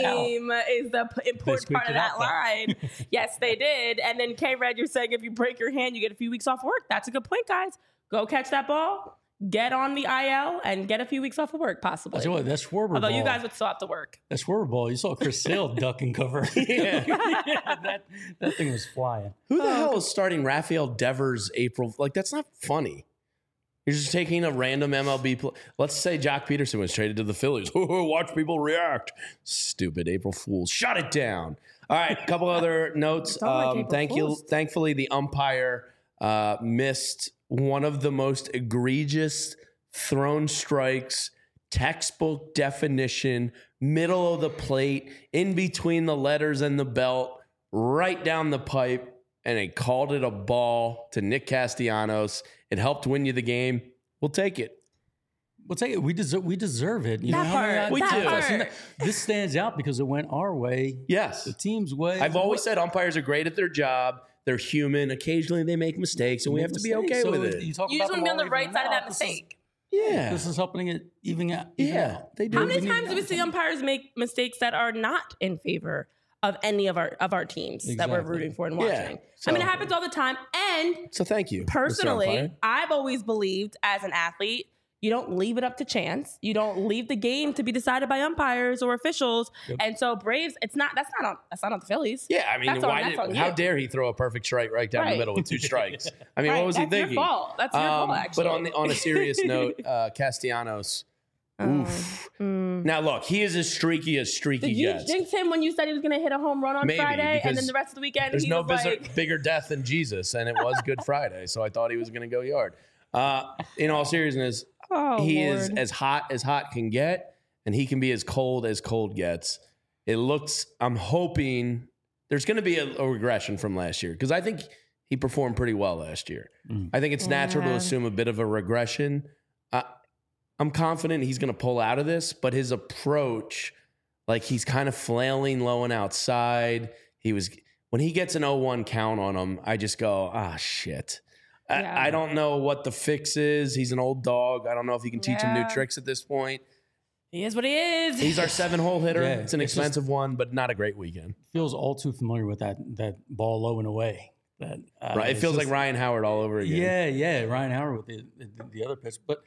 is the p- important part of that line. Yes, they did. And then K-Red, you're saying if you break your hand, you get a few weeks off work. That's a good point, guys. Go catch that ball. Get on the I L and get a few weeks off of work, possibly. I tell you what, that Schwarber Although ball, you guys would still have to work. That Schwarber ball, you saw Chris Sale duck and cover. yeah. yeah, that, that thing was flying. Who the oh, hell is starting Rafael Devers April? Like, that's not funny. You're just taking a random M L B play. Let's say Jock Peterson was traded to the Phillies. Watch people react. Stupid April Fools. Shut it down. All right, a couple other notes. Um, like thank Fools. you. Thankfully, the umpire uh, missed one of the most egregious thrown strikes, textbook definition, middle of the plate, in between the letters and the belt, right down the pipe, and they called it a ball to Nick Castellanos. It helped win you the game. We'll take it. We'll take it. We deserve. We deserve it. You that know, part. I mean, we that do. Part. This stands out because it went our way. Yes, the team's way. I've always said umpires are great at their job. They're human. Occasionally they make mistakes, and we have to be okay so with it. You, you just want to be on the right side of that mistake. Yeah. This is helping it even out. Even yeah, out. they do. How many times do we see umpires make mistakes that are not in favor of any of our of our teams exactly. that we're rooting for and watching? Yeah, so, I mean, it happens all the time. And so thank you. Personally, I've always believed as an athlete, you don't leave it up to chance. You don't leave the game to be decided by umpires or officials. Yep. And so Braves, it's not that's not on that's not on the Phillies. Yeah, I mean, that's why on, did, how you. dare he throw a perfect strike right down right. the middle with two strikes? I mean, right. what was that's he thinking? Your fault. That's your um, fault, actually. But on the, on a serious note, uh, Castellanos, Oof. Mm. Now, look, he is as streaky as streaky Did you gets. jinx him when you said he was going to hit a home run on Maybe, Friday, and then because the rest of the weekend There's he no was bigger, like, bigger death than Jesus, and it was Good Friday, so I thought he was going to go yard. Uh, in all seriousness, oh, he Lord. is as hot as hot can get, and he can be as cold as cold gets. It looks, I'm hoping there's going to be a, a regression from last year, because I think he performed pretty well last year. Mm. I think it's yeah. natural to assume a bit of a regression. Uh, I'm confident he's going to pull out of this, but his approach, like he's kind of flailing low and outside. He was, when he gets an oh one count on him, I just go, ah, shit. Yeah. I, I don't know what the fix is. He's an old dog. I don't know if you can teach yeah. him new tricks at this point. He is what he is. He's our seven-hole hitter. Yeah, it's an it's expensive just, one, but not a great weekend. Feels all too familiar with that that ball low and away. That uh, right. It feels just, like Ryan Howard all over again. Yeah, yeah, Ryan Howard with the, the, the other pitch. But,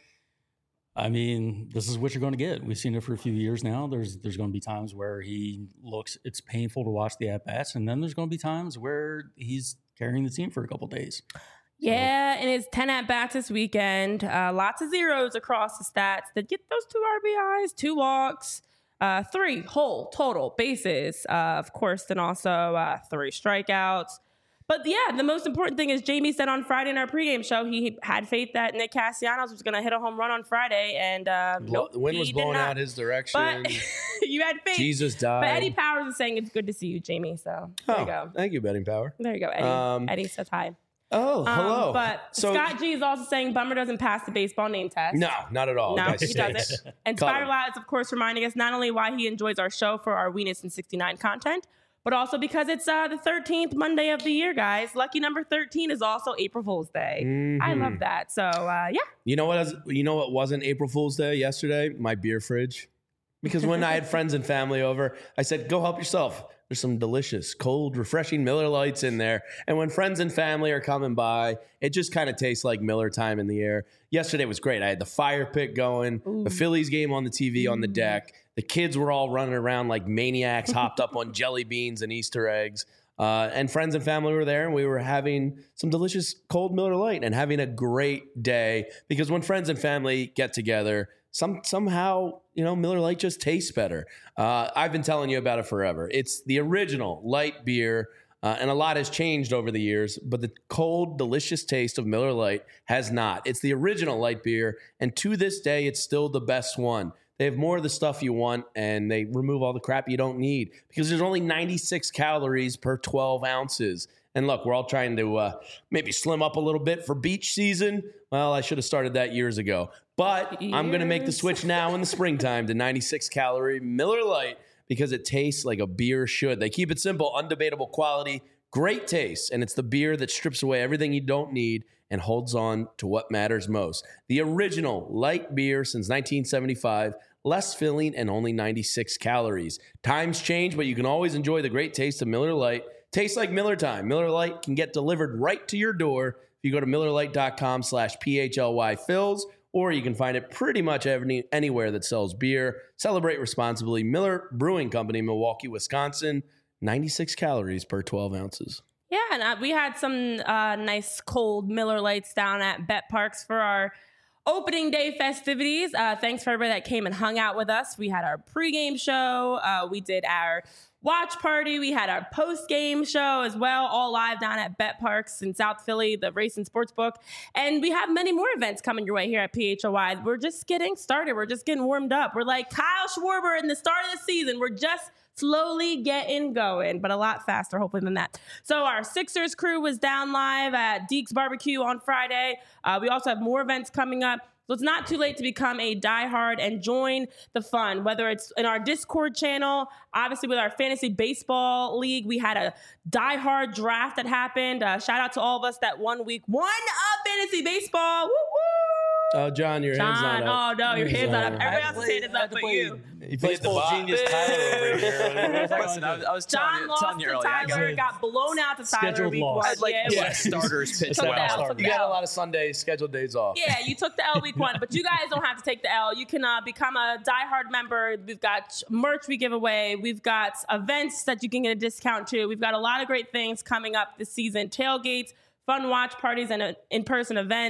I mean, this is what you're going to get. We've seen it for a few years now. There's there's going to be times where he looks, it's painful to watch the at-bats, and then there's going to be times where he's carrying the team for a couple days. Yeah, and it's ten at-bats this weekend. Uh, lots of zeros across the stats that get those two R B Is, two walks, uh, three whole total bases, uh, of course, then also uh, three strikeouts. But yeah, the most important thing is Jamie said on Friday in our pregame show, he had faith that Nick Castellanos was going to hit a home run on Friday, and uh, nope, the wind was blowing out his direction. But you had faith. Jesus died. But Eddie Powers is saying it's good to see you, Jamie. So there oh, you go. Thank you, Betting Power. There you go, Eddie. Um, Eddie says hi. Oh, hello. Um, but so, Scott G is also saying Bummer doesn't pass the baseball name test. No, not at all. No, he doesn't. And Spiral Out is, of course, reminding us not only why he enjoys our show for our Weenus and sixty-nine content, but also because it's uh, the thirteenth Monday of the year, guys. Lucky number thirteen is also April Fool's Day. Mm-hmm. I love that. So, uh, yeah. You know what? Was, you know what wasn't April Fool's Day yesterday? My beer fridge. Because when I had friends and family over, I said, go help yourself. There's some delicious, cold, refreshing Miller Lights in there. And when friends and family are coming by, it just kind of tastes like Miller time in the air. Yesterday was great. I had the fire pit going, Ooh. the Phillies game on the T V on the deck. The kids were all running around like maniacs, hopped up on jelly beans and Easter eggs. Uh, and friends and family were there, and we were having some delicious cold Miller Lite and having a great day. Because when friends and family get together, some somehow, you know, Miller Lite just tastes better. Uh, I've been telling you about it forever. It's the original light beer, uh, and a lot has changed over the years, but the cold, delicious taste of Miller Lite has not. It's the original light beer, and to this day, it's still the best one. They have more of the stuff you want, and they remove all the crap you don't need because there's only ninety-six calories per twelve ounces. And look, we're all trying to uh, maybe slim up a little bit for beach season. Well, I should have started that years ago. But years. I'm going to make the switch now in the springtime to ninety-six calorie Miller Lite because it tastes like a beer should. They keep it simple, undebatable quality, great taste, and it's the beer that strips away everything you don't need and holds on to what matters most. The original light beer since nineteen seventy-five, less filling and only ninety-six calories. Times change, but you can always enjoy the great taste of Miller Lite. Tastes like Miller time. Miller Lite can get delivered right to your door if you go to millerlite.com slash PHLY Phils, or you can find it pretty much any, anywhere that sells beer. Celebrate responsibly. Miller Brewing Company, Milwaukee, Wisconsin. ninety-six calories per twelve ounces. Yeah, and uh, we had some uh, nice cold Miller Lights down at Bet Parks for our opening day festivities. Uh, thanks for everybody that came and hung out with us. We had our pregame show. Uh, we did our watch party. We had our post-game show as well, all live down at Bet Parks in South Philly, the Race and Sports Book. And we have many more events coming your way here at P H O Y. We're just getting started. We're just getting warmed up. We're like Kyle Schwarber in the start of the season. We're just slowly getting going, but a lot faster, hopefully, than that. So our Sixers crew was down live at Deke's Barbecue on Friday. Uh, we also have more events coming up. So it's not too late to become a diehard and join the fun, whether it's in our Discord channel, obviously with our fantasy baseball league. We had a diehard draft that happened. Uh, shout out to all of us that one week won a fantasy baseball. Woo woo! Oh, John, your John, hand's not up. Oh, no, your hand's not up. Everybody else's hand is up but you. You baseball genius Tyler over here. Listen, I was, I was John telling, lost telling you to earlier. Tyler, I got, got blown out to Tyler Scheduled week loss. one. I had like yeah, yeah, yeah. starters pitch Took well. the L, took You the got a L. lot of Sundays, scheduled days off. Yeah, you took the L week one, but you guys don't have to take the L. You can uh, become a diehard member. We've got merch we give away. We've got events that you can get a discount to. We've got a lot of great things coming up this season. Tailgates, fun watch parties, and uh, in-person events.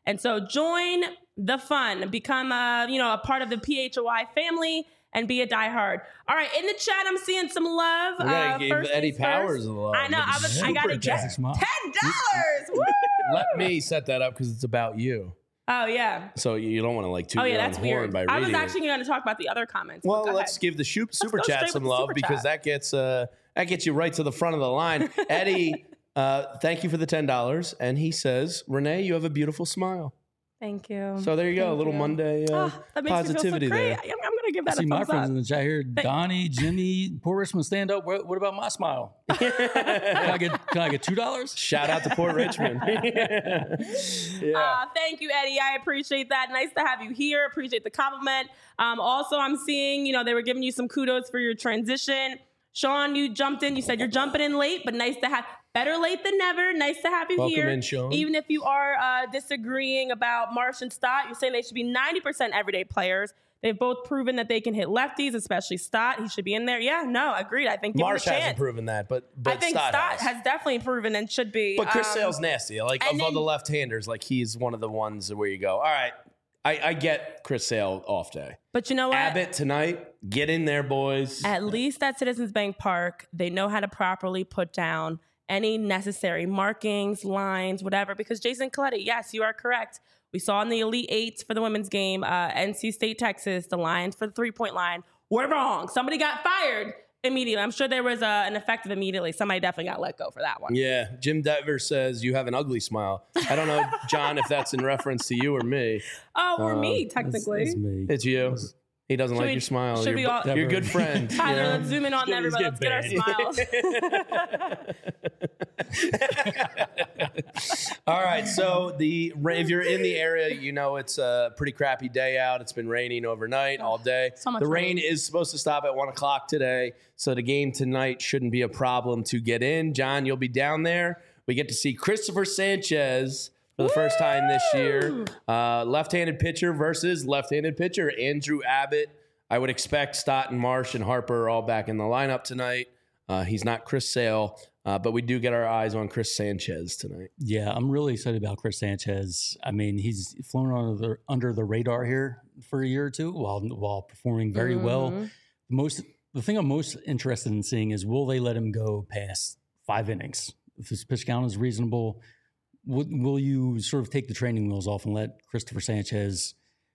And so join the fun, become a, you know, a part of the P H O I family and be a diehard. All right, in the chat, I'm seeing some love. We gotta uh, give first Eddie things Powers first. a love. I know. I, was, I got to get Super chat. ten dollars. Woo! Let me set that up because it's about you. Oh, yeah. So you don't want to like toot Oh, yeah, your own that's horn weird. by I reading was actually it. going to talk about the other comments. Well, but go let's ahead. give the shoot, super go chat straight some with the love super because chat. that gets uh, that gets you right to the front of the line. Eddie, uh, thank you for the ten dollars, and he says, Renee, you have a beautiful smile. Thank you. So there you go, a Thank little you. Monday uh, Oh, that makes positivity me feel so there. great. I'm, I'm going to give I that a see my thumbs friends up. in the chat here. Donnie, Jimmy, Poor Richmond, stand up. What, what about my smile? can I get Can I get two dollars? Shout out to Port Richmond. yeah. Uh, thank you, Eddie. I appreciate that. Nice to have you here. Appreciate the compliment. Um, also, I'm seeing, you know, they were giving you some kudos for your transition. Sean, you jumped in. You said you're jumping in late, but nice to have, better late than never. Nice to have you Welcome here. in, Sean. Even if you are uh, disagreeing about Marsh and Stott, you're saying they should be ninety percent everyday players. They've both proven that they can hit lefties, especially Stott. He should be in there. Yeah, no, agreed. I think give Marsh him a hasn't chance. proven that, but, but I think Stott, Stott has. has definitely proven and should be. But Chris Um, Sale's nasty. Like, and of all then- the left-handers, like, he's one of the ones where you go, all right, I, I get Chris Sale off day. But you know what? Abbott tonight, get in there, boys. At least at Citizens Bank Park, they know how to properly put down any necessary markings, lines, whatever. Because Jason Coletti, yes, you are correct. We saw in the Elite Eights for the women's game, uh, N C State, Texas, the lines for the three-point line were wrong. Somebody got fired immediately. I'm sure there was uh, an effective immediately. Somebody definitely got let go for that one. Yeah, Jim Dever says you have an ugly smile. I don't know, John, if that's in reference to you or me. Oh, or Uh, me, That's, technically. that's me. It's you. He doesn't Should like we- your smile. should You're, we all- you're a good friend. Tyler, Yeah. let's zoom in on He's everybody. Let's get our getting smiles. All right, so the if you're in the area, you know it's a pretty crappy day out. It's been raining overnight all day. So much the rain rain. is supposed to stop at one o'clock today, so the game tonight shouldn't be a problem to get in. John, you'll be down there. We get to see Christopher Sanchez for the first time this year. Uh, left-handed pitcher versus left-handed pitcher Andrew Abbott. I would expect Stott and Marsh and Harper are all back in the lineup tonight. Uh, he's not Chris Sale, uh, but we do get our eyes on Chris Sanchez tonight. Yeah, I'm really excited about Chris Sanchez. I mean, he's flown under the, under the radar here for a year or two while while performing very well. Mhm. Most the thing I'm most interested in seeing is will they let him go past five innings? If his pitch count is reasonable, will, will you sort of take the training wheels off and let Christopher Sanchez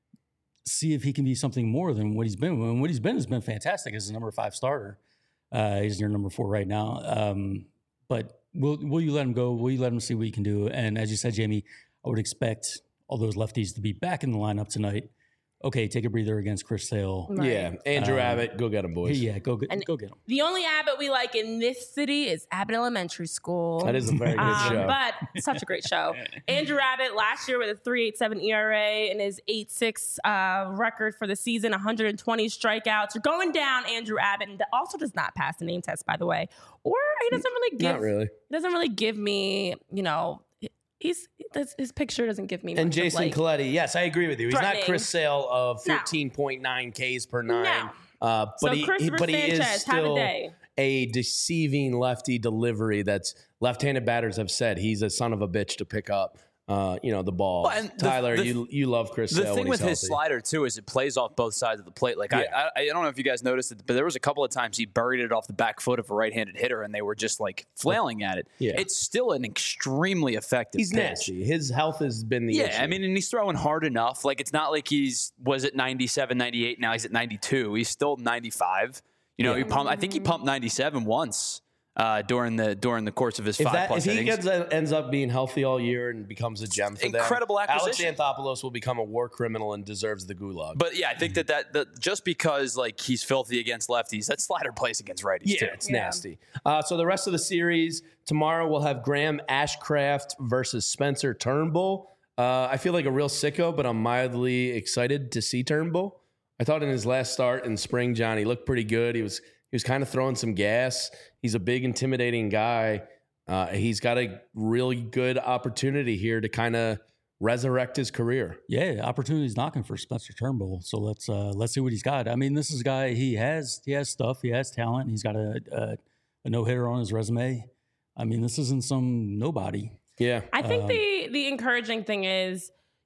see if he can be something more than what he's been? And what he's been has been fantastic as a number five starter. Uh, he's your number four right now. Um, but will will you let him go? Will you let him see what he can do? And as you said, Jamie, I would expect all those lefties to be back in the lineup tonight. Okay, take a breather against Chris Sale. Right. Yeah, Andrew Um, Abbott, go get him, boys. Yeah, go get And- go get him. The only Abbott we like in this city is Abbott Elementary School. That is a very good Um, show. But such a great show. Andrew Abbott last year with a three point eight seven E R A and his eight point six uh, record for the season, one hundred twenty strikeouts. You're going down, Andrew Abbott, and also does not pass the name test, by the way. Or he doesn't really give. Not really. He doesn't really give me, you know. He's his, his picture doesn't give me. And much of, Jason like, Coletti, yes, I agree with you. He's not threatening. Chris Sale of No. fourteen point nine Ks per nine. No. Uh, but So he, Christopher but he is Sanchez, have a still day. a deceiving lefty delivery that's left-handed batters have said he's a son of a bitch to pick up. Uh, you know, the ball. Well, and the- Tyler, the- you you love Chris The Sale thing when with he's his healthy. slider too is it plays off both sides of the plate. Like Yeah. I, I, I don't know if you guys noticed it, but there was a couple of times he buried it off the back foot of a right-handed hitter, and they were just like flailing at it. Yeah. It's still an extremely effective. He's pitch. nasty. His health has been the Yeah, issue. I mean, and he's throwing hard enough. Like it's not like he's was at ninety-seven, ninety-eight. Now he's at ninety-two. He's still ninety-five. You know, Yeah. he pumped. I think he pumped ninety-seven once uh, during the during the course of his If, five that, plus if he innings. gets, ends up being healthy all year and becomes a gem for them, Incredible acquisition. Alex Anthopoulos will become a war criminal and deserves the gulag. But yeah, I think that, that that just because like he's filthy against lefties, that slider plays against righties yeah, too. it's Yeah. nasty. Uh, so the rest of the series tomorrow we'll have Graham Ashcraft versus Spencer Turnbull. Uh, I feel like a real sicko, but I'm mildly excited to see Turnbull. I thought in his last start in spring, John, he looked pretty good. He was he was kind of throwing some gas. He's a big, intimidating guy. Uh, he's got a really good opportunity here to kind of resurrect his career. Yeah, opportunity's knocking for Spencer Turnbull. So let's uh, let's see what he's got. I mean, this is a guy. He has he has stuff. He has talent. He's got a a, a no hitter on his resume. I mean, this isn't some nobody. Yeah. I think Um, the the encouraging thing is,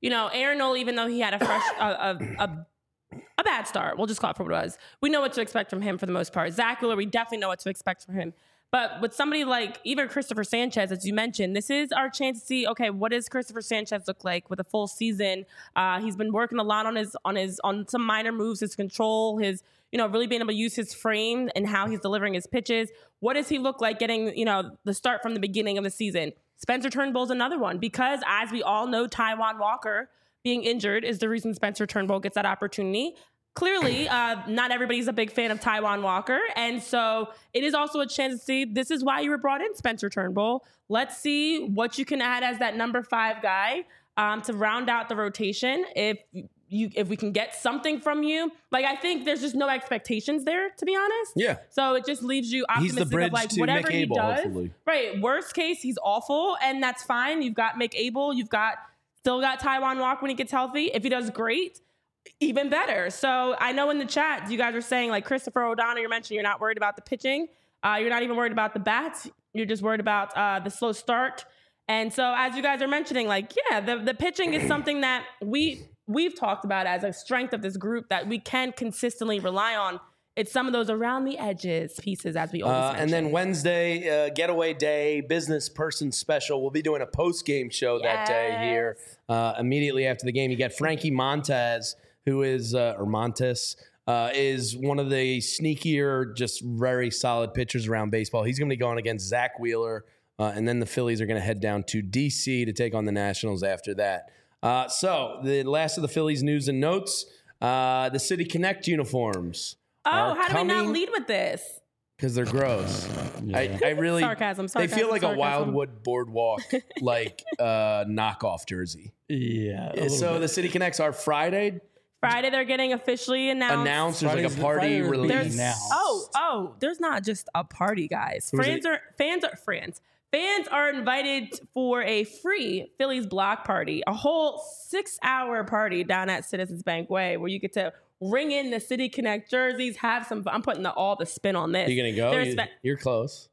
you know, Aaron Nola, even though he had a fresh, a, a, a, a bad start, we'll just call it for what it was. We know what to expect from him for the most part. Zach Wheeler, we definitely know what to expect from him. But with somebody like even Christopher Sanchez, as you mentioned, this is our chance to see, okay, what does Christopher Sanchez look like with a full season? Uh, he's been working a lot on his, on his, on some minor moves, his control, his, you know, really being able to use his frame and how he's delivering his pitches. What does he look like getting, you know, the start from the beginning of the season? Spencer Turnbull's another one because, as we all know, Taijuan Walker being injured is the reason Spencer Turnbull gets that opportunity. Clearly, uh, not everybody's a big fan of Taijuan Walker. And so it is also a chance to see this is why you were brought in, Spencer Turnbull. Let's see what you can add as that number five guy um, to round out the rotation. If you, if we can get something from you, like I think there's just no expectations there, to be honest. Yeah. So it just leaves you optimistic He's the bridge of like to whatever he McAble, does. hopefully. Right. Worst case, he's awful, and that's fine. You've got McAble. You've got still got Taijuan Walker when he gets healthy. If he does great, even better. So I know in the chat, you guys are saying like Christopher O'Donnell, you mentioned you're not worried about the pitching. Uh, you're not even worried about the bats. You're just worried about uh, the slow start. And so as you guys are mentioning, like, yeah, the, the pitching is something that we, we've talked about as a strength of this group that we can consistently rely on. It's some of those around the edges pieces, as we always Uh, mention. and then Wednesday, uh, getaway day, business person special. We'll be doing a post-game show that day here. Uh, immediately after the game, you got Frankie Montez, who is, uh, or Montes, uh, is one of the sneakier, just very solid pitchers around baseball. He's going to be going against Zach Wheeler, uh, and then the Phillies are going to head down to D C to take on the Nationals after that. Uh, so the last of the Phillies news and notes, uh, the City Connect uniforms. Oh, how do we not lead with this? Because they're gross. Yeah. I, I really Sarcasm, They feel sarcasm, like sarcasm. a Wildwood Boardwalk like uh, knockoff jersey. Yeah. a little So bit. the City Connects are Friday Friday, they're getting officially announced. announced. There's like a Friday's- party Friday will be release. announced. Oh, oh, there's not just a party, guys. Who's Fans it? are fans are fans. Fans are invited for a free Phillies block party, a whole six-hour party down at Citizens Bank Way, where you get to ring in the City Connect jerseys, have some fun. I'm putting the, all the spin on this. You gonna go? There's, You, fe- you're close.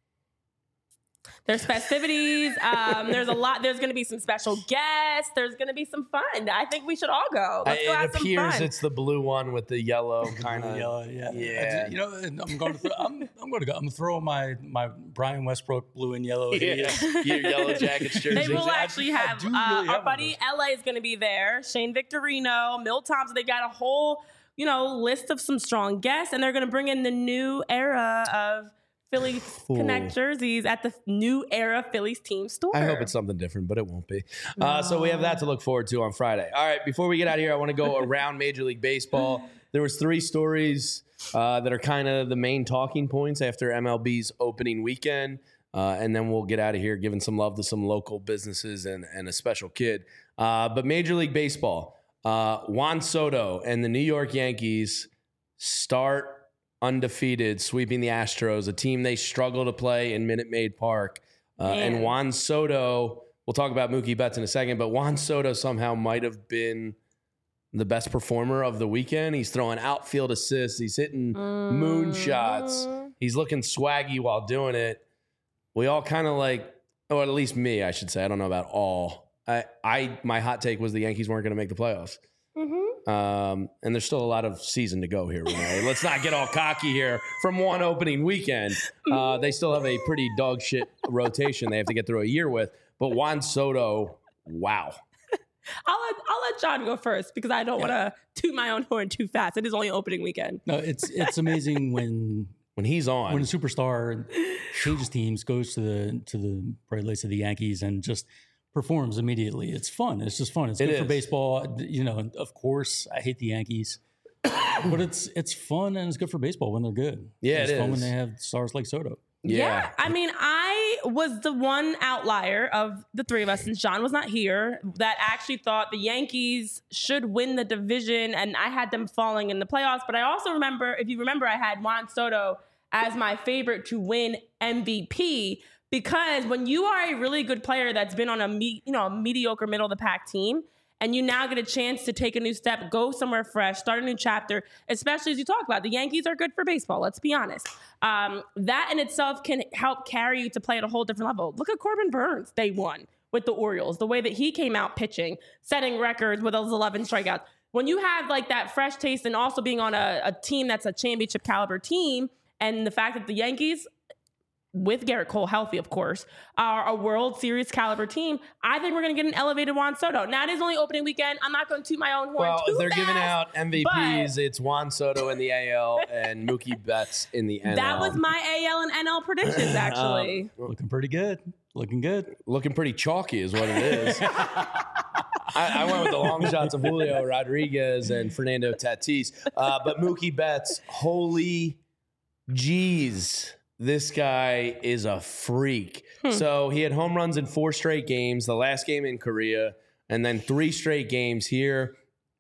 there's festivities. Um, there's a lot. There's going to be some special guests. There's going to be some fun. I think we should all go. Let's I- go it have some appears fun. it's the blue one with the yellow kind of. Yellow, yeah, Yeah. I ju- you know, and I'm going to. Throw, I'm, I'm going to go. I'm throwing my my Brian Westbrook blue and yellow. Yeah, your yellow jackets jersey. They will I- actually I have, do uh, really our have one buddy L A is going to be there. Shane Victorino, Milt Thompson. They got a whole, you know, list of some strong guests, and they're going to bring in the new era of Phillies Ooh. Connect jerseys at the new era Phillies team store. I hope it's something different, but it won't be. Uh, so we have that to look forward to on Friday. All right, before we get out of here, I want to go around Major League Baseball. There was three stories uh, that are kind of the main talking points after M L B's opening weekend, uh, and then we'll get out of here giving some love to some local businesses and, and a special kid. Uh, but Major League Baseball, uh, Juan Soto and the New York Yankees start undefeated, sweeping the Astros, a team they struggle to play in Minute Maid Park. Uh, and Man. Juan Soto, we'll talk about Mookie Betts in a second, but Juan Soto somehow might have been the best performer of the weekend. He's throwing outfield assists. He's hitting moon shots. He's looking swaggy while doing it. We all kind of like, or at least me, I should say. I don't know about all. I, I my hot take was the Yankees weren't going to make the playoffs. Mm-hmm. Um, and there's still a lot of season to go here, Renee. Let's not get all cocky here from one opening weekend. Uh, they still have a pretty dog shit rotation they have to get through a year with. But Juan Soto, wow. I'll let I'll let John go first because I don't want to toot my own horn too fast. It is only opening weekend. No, it's it's amazing when When he's on. when a superstar changes teams, goes to the to the Bright Lights of the Yankees, and just performs immediately. It's fun. It's just fun. It's It good for is. baseball. You know, of course, I hate the Yankees, but it's it's fun and it's good for baseball when they're good. Yeah, it's it fun is. when they have stars like Soto. yeah. I mean, I was the one outlier of the three of us, since John was not here, that actually thought the Yankees should win the division, and I had them falling in the playoffs. But I also remember, if you remember, I had Juan Soto as my favorite to win M V P, because when you are a really good player that's been on a me, you know a mediocre middle of the pack team, and you now get a chance to take a new step, go somewhere fresh, start a new chapter, especially as you talk about, the Yankees are good for baseball, let's be honest. Um, that in itself can help carry you to play at a whole different level. Look at Corbin Burns, day one. with the Orioles, the way that he came out pitching, setting records with those eleven strikeouts. When you have like that fresh taste and also being on a, a team that's a championship caliber team, and the fact that the Yankees, with Garrett Cole healthy, of course, are a World Series caliber team, I think we're going to get an elevated Juan Soto. Now, it is only opening weekend. I'm not going to toot my own horn Well, too if they're fast, giving out M V Ps, but it's Juan Soto in the A L and Mookie Betts in the N L. that was my A L and N L predictions, actually. Um, Looking pretty good. Looking good. Looking pretty chalky is what it is. I, I went with the long shots of Julio Rodriguez and Fernando Tatis. Uh, but Mookie Betts, holy jeez, this guy is a freak. Hmm. So he had home runs in four straight games, the last game in Korea, and then three straight games here.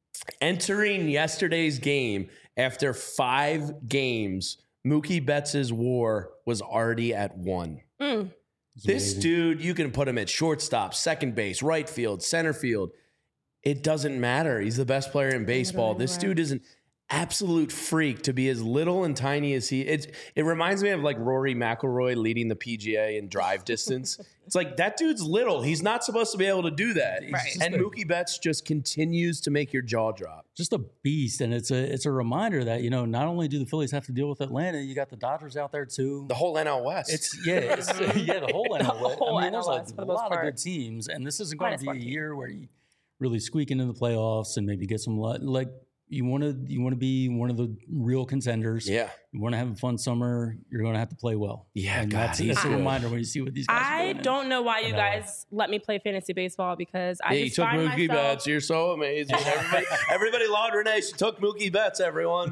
Entering yesterday's game, after five games, Mookie Betts' WAR was already at one. Mm. This dude, you can put him at shortstop, second base, right field, center field. It doesn't matter. He's the best player in baseball. This dude is an absolute freak to be as little and tiny as he is. It reminds me of like Rory McIlroy leading the P G A in drive distance. It's like that dude's little. He's not supposed to be able to do that. Right. And Mookie Betts just continues to make your jaw drop. Just a beast. And it's a it's a reminder that, you know, not only do the Phillies have to deal with Atlanta, you got the Dodgers out there too. The whole N L West. It's yeah, it's, yeah, the whole N L West. whole I mean, N L there's West, a for the most lot part. of good teams, and this isn't going Minus to one be a team. year where you really squeak into the playoffs and maybe get some lu- like you want to you want to be one of the real contenders. Yeah. You want to have a fun summer. You're going to have to play well. Yeah, and God, that's, he's that's a good. reminder when you see what these guys are I doing. And- don't know why you know. guys let me play fantasy baseball because I Yeah, you just took find Mookie myself. Betts. You're so amazing. Everybody, everybody loved Renee. She took Mookie Betts, everyone.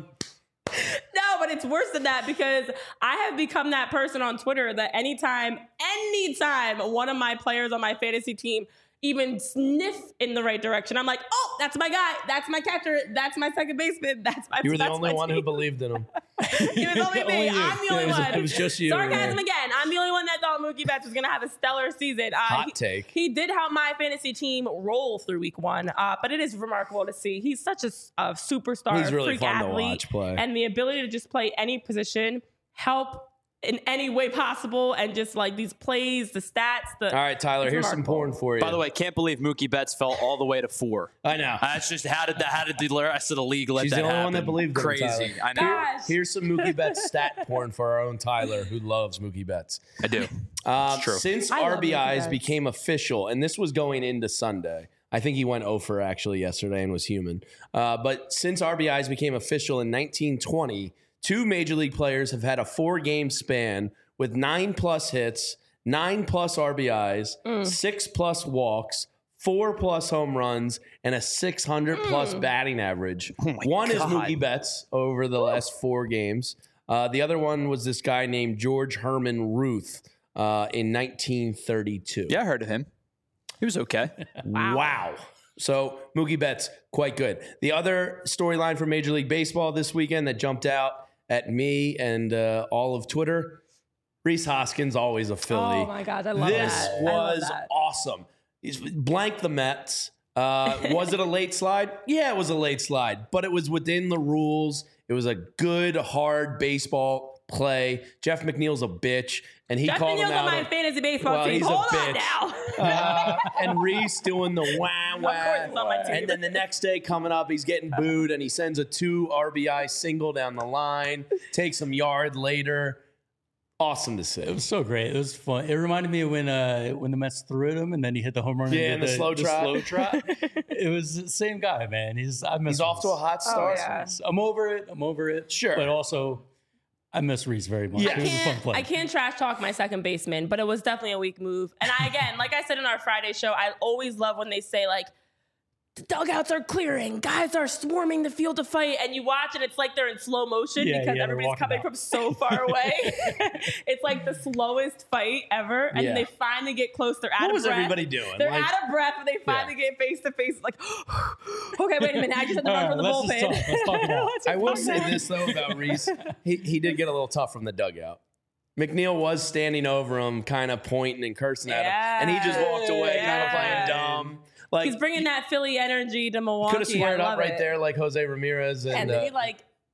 No, but it's worse than that because I have become that person on Twitter that anytime, anytime one of my players on my fantasy team even sniff in the right direction, I'm like, oh, that's my guy. That's my catcher. That's my second baseman. That's my You were the that's only my one team. who believed in him. It was only me. Only you. I'm the only It was- one. it was just you, Sarcasm Renee. again. I'm the only one that thought Mookie Betts was going to have a stellar season. Uh, Hot he, take. He did help my fantasy team roll through week one, uh, but it is remarkable to see. He's such a, a superstar, He's really freak fun to athlete, watch play. and the ability to just play any position, help in any way possible, and just like these plays, the stats. The, All right, Tyler, it's here's some remarkable. porn for you. By the way, can't believe Mookie Betts fell all the way to four. I know. That's just how did the how did the rest of the league let She's that the only happen? one that believed in him, Crazy. Tyler. I know. Gosh. Here's some Mookie Betts stat porn for our own Tyler, who loves Mookie Betts. I do. Um, true. Since I love R B Is Mookie Betts. became official, and this was going into Sunday, I think he went oh for actually yesterday and was human. Uh, but since R B Is became official in nineteen twenty, two Major League players have had a four-game span with nine plus hits, nine plus R B Is, Mm. six plus walks, four plus home runs, and a six hundred plus Mm. batting average. Oh my One is God. Mookie Betts over the last four games. Uh, the other one was this guy named George Herman Ruth uh, in nineteen thirty-two. Yeah, I heard of him. He was okay. Wow. Wow. So Mookie Betts, quite good. The other storyline for Major League Baseball this weekend that jumped out at me and uh, all of Twitter, Rhys Hoskins, always a Philly. Oh my God, I love this that. I love was that. awesome. He's blank the Mets. Uh, was it a late slide? Yeah, it was a late slide, but it was within the rules. It was a good, hard baseball play. Jeff McNeil's a bitch, and he Jeff called him McNeil's out. on my on- fantasy baseball Well, team. he's a Hold on bitch. now. uh, and Reese doing the wah wah. Of course it's on my team. And then the next day coming up, he's getting booed, and he sends a two R B I single down the line, takes him yard later. Awesome to see. It was so great. It was fun. It reminded me of when uh, when the Mets threw at him and then he hit the home run. Yeah, and and did the slow trot. slow trot. It was the same guy, man. He's I miss He's off to a Reese. hot start. Oh, yeah. I'm over it. I'm over it. Sure. But also, I miss Reese very much. Yeah. I He was a fun can't, player. I can't trash talk my second baseman, but it was definitely a weak move. And I, again, like I said in our Friday show, I always love when they say, like, the dugouts are clearing, guys are swarming the field to fight, and you watch and it's like they're in slow motion Yeah, because yeah, they're everybody's walking coming out. from so far away. It's like the slowest fight ever, and Yeah. they finally get close. They're out What of was breath. everybody doing? They're Like- out of breath, and they finally get face to face. Like, okay, wait a minute, I just had to run All from the right, let's just bullpen. talk. Let's talk it out. Let's I just will talk say now. this, though, about Reese. He, he did get a little tough from the dugout. McNeil was standing over him, kind of pointing and cursing at him. And he just walked away, kind of playing Yeah. dumb. Like, He's bringing that Philly energy to Milwaukee. could have squared I up love right it. there like Jose Ramirez. And, And then uh, he like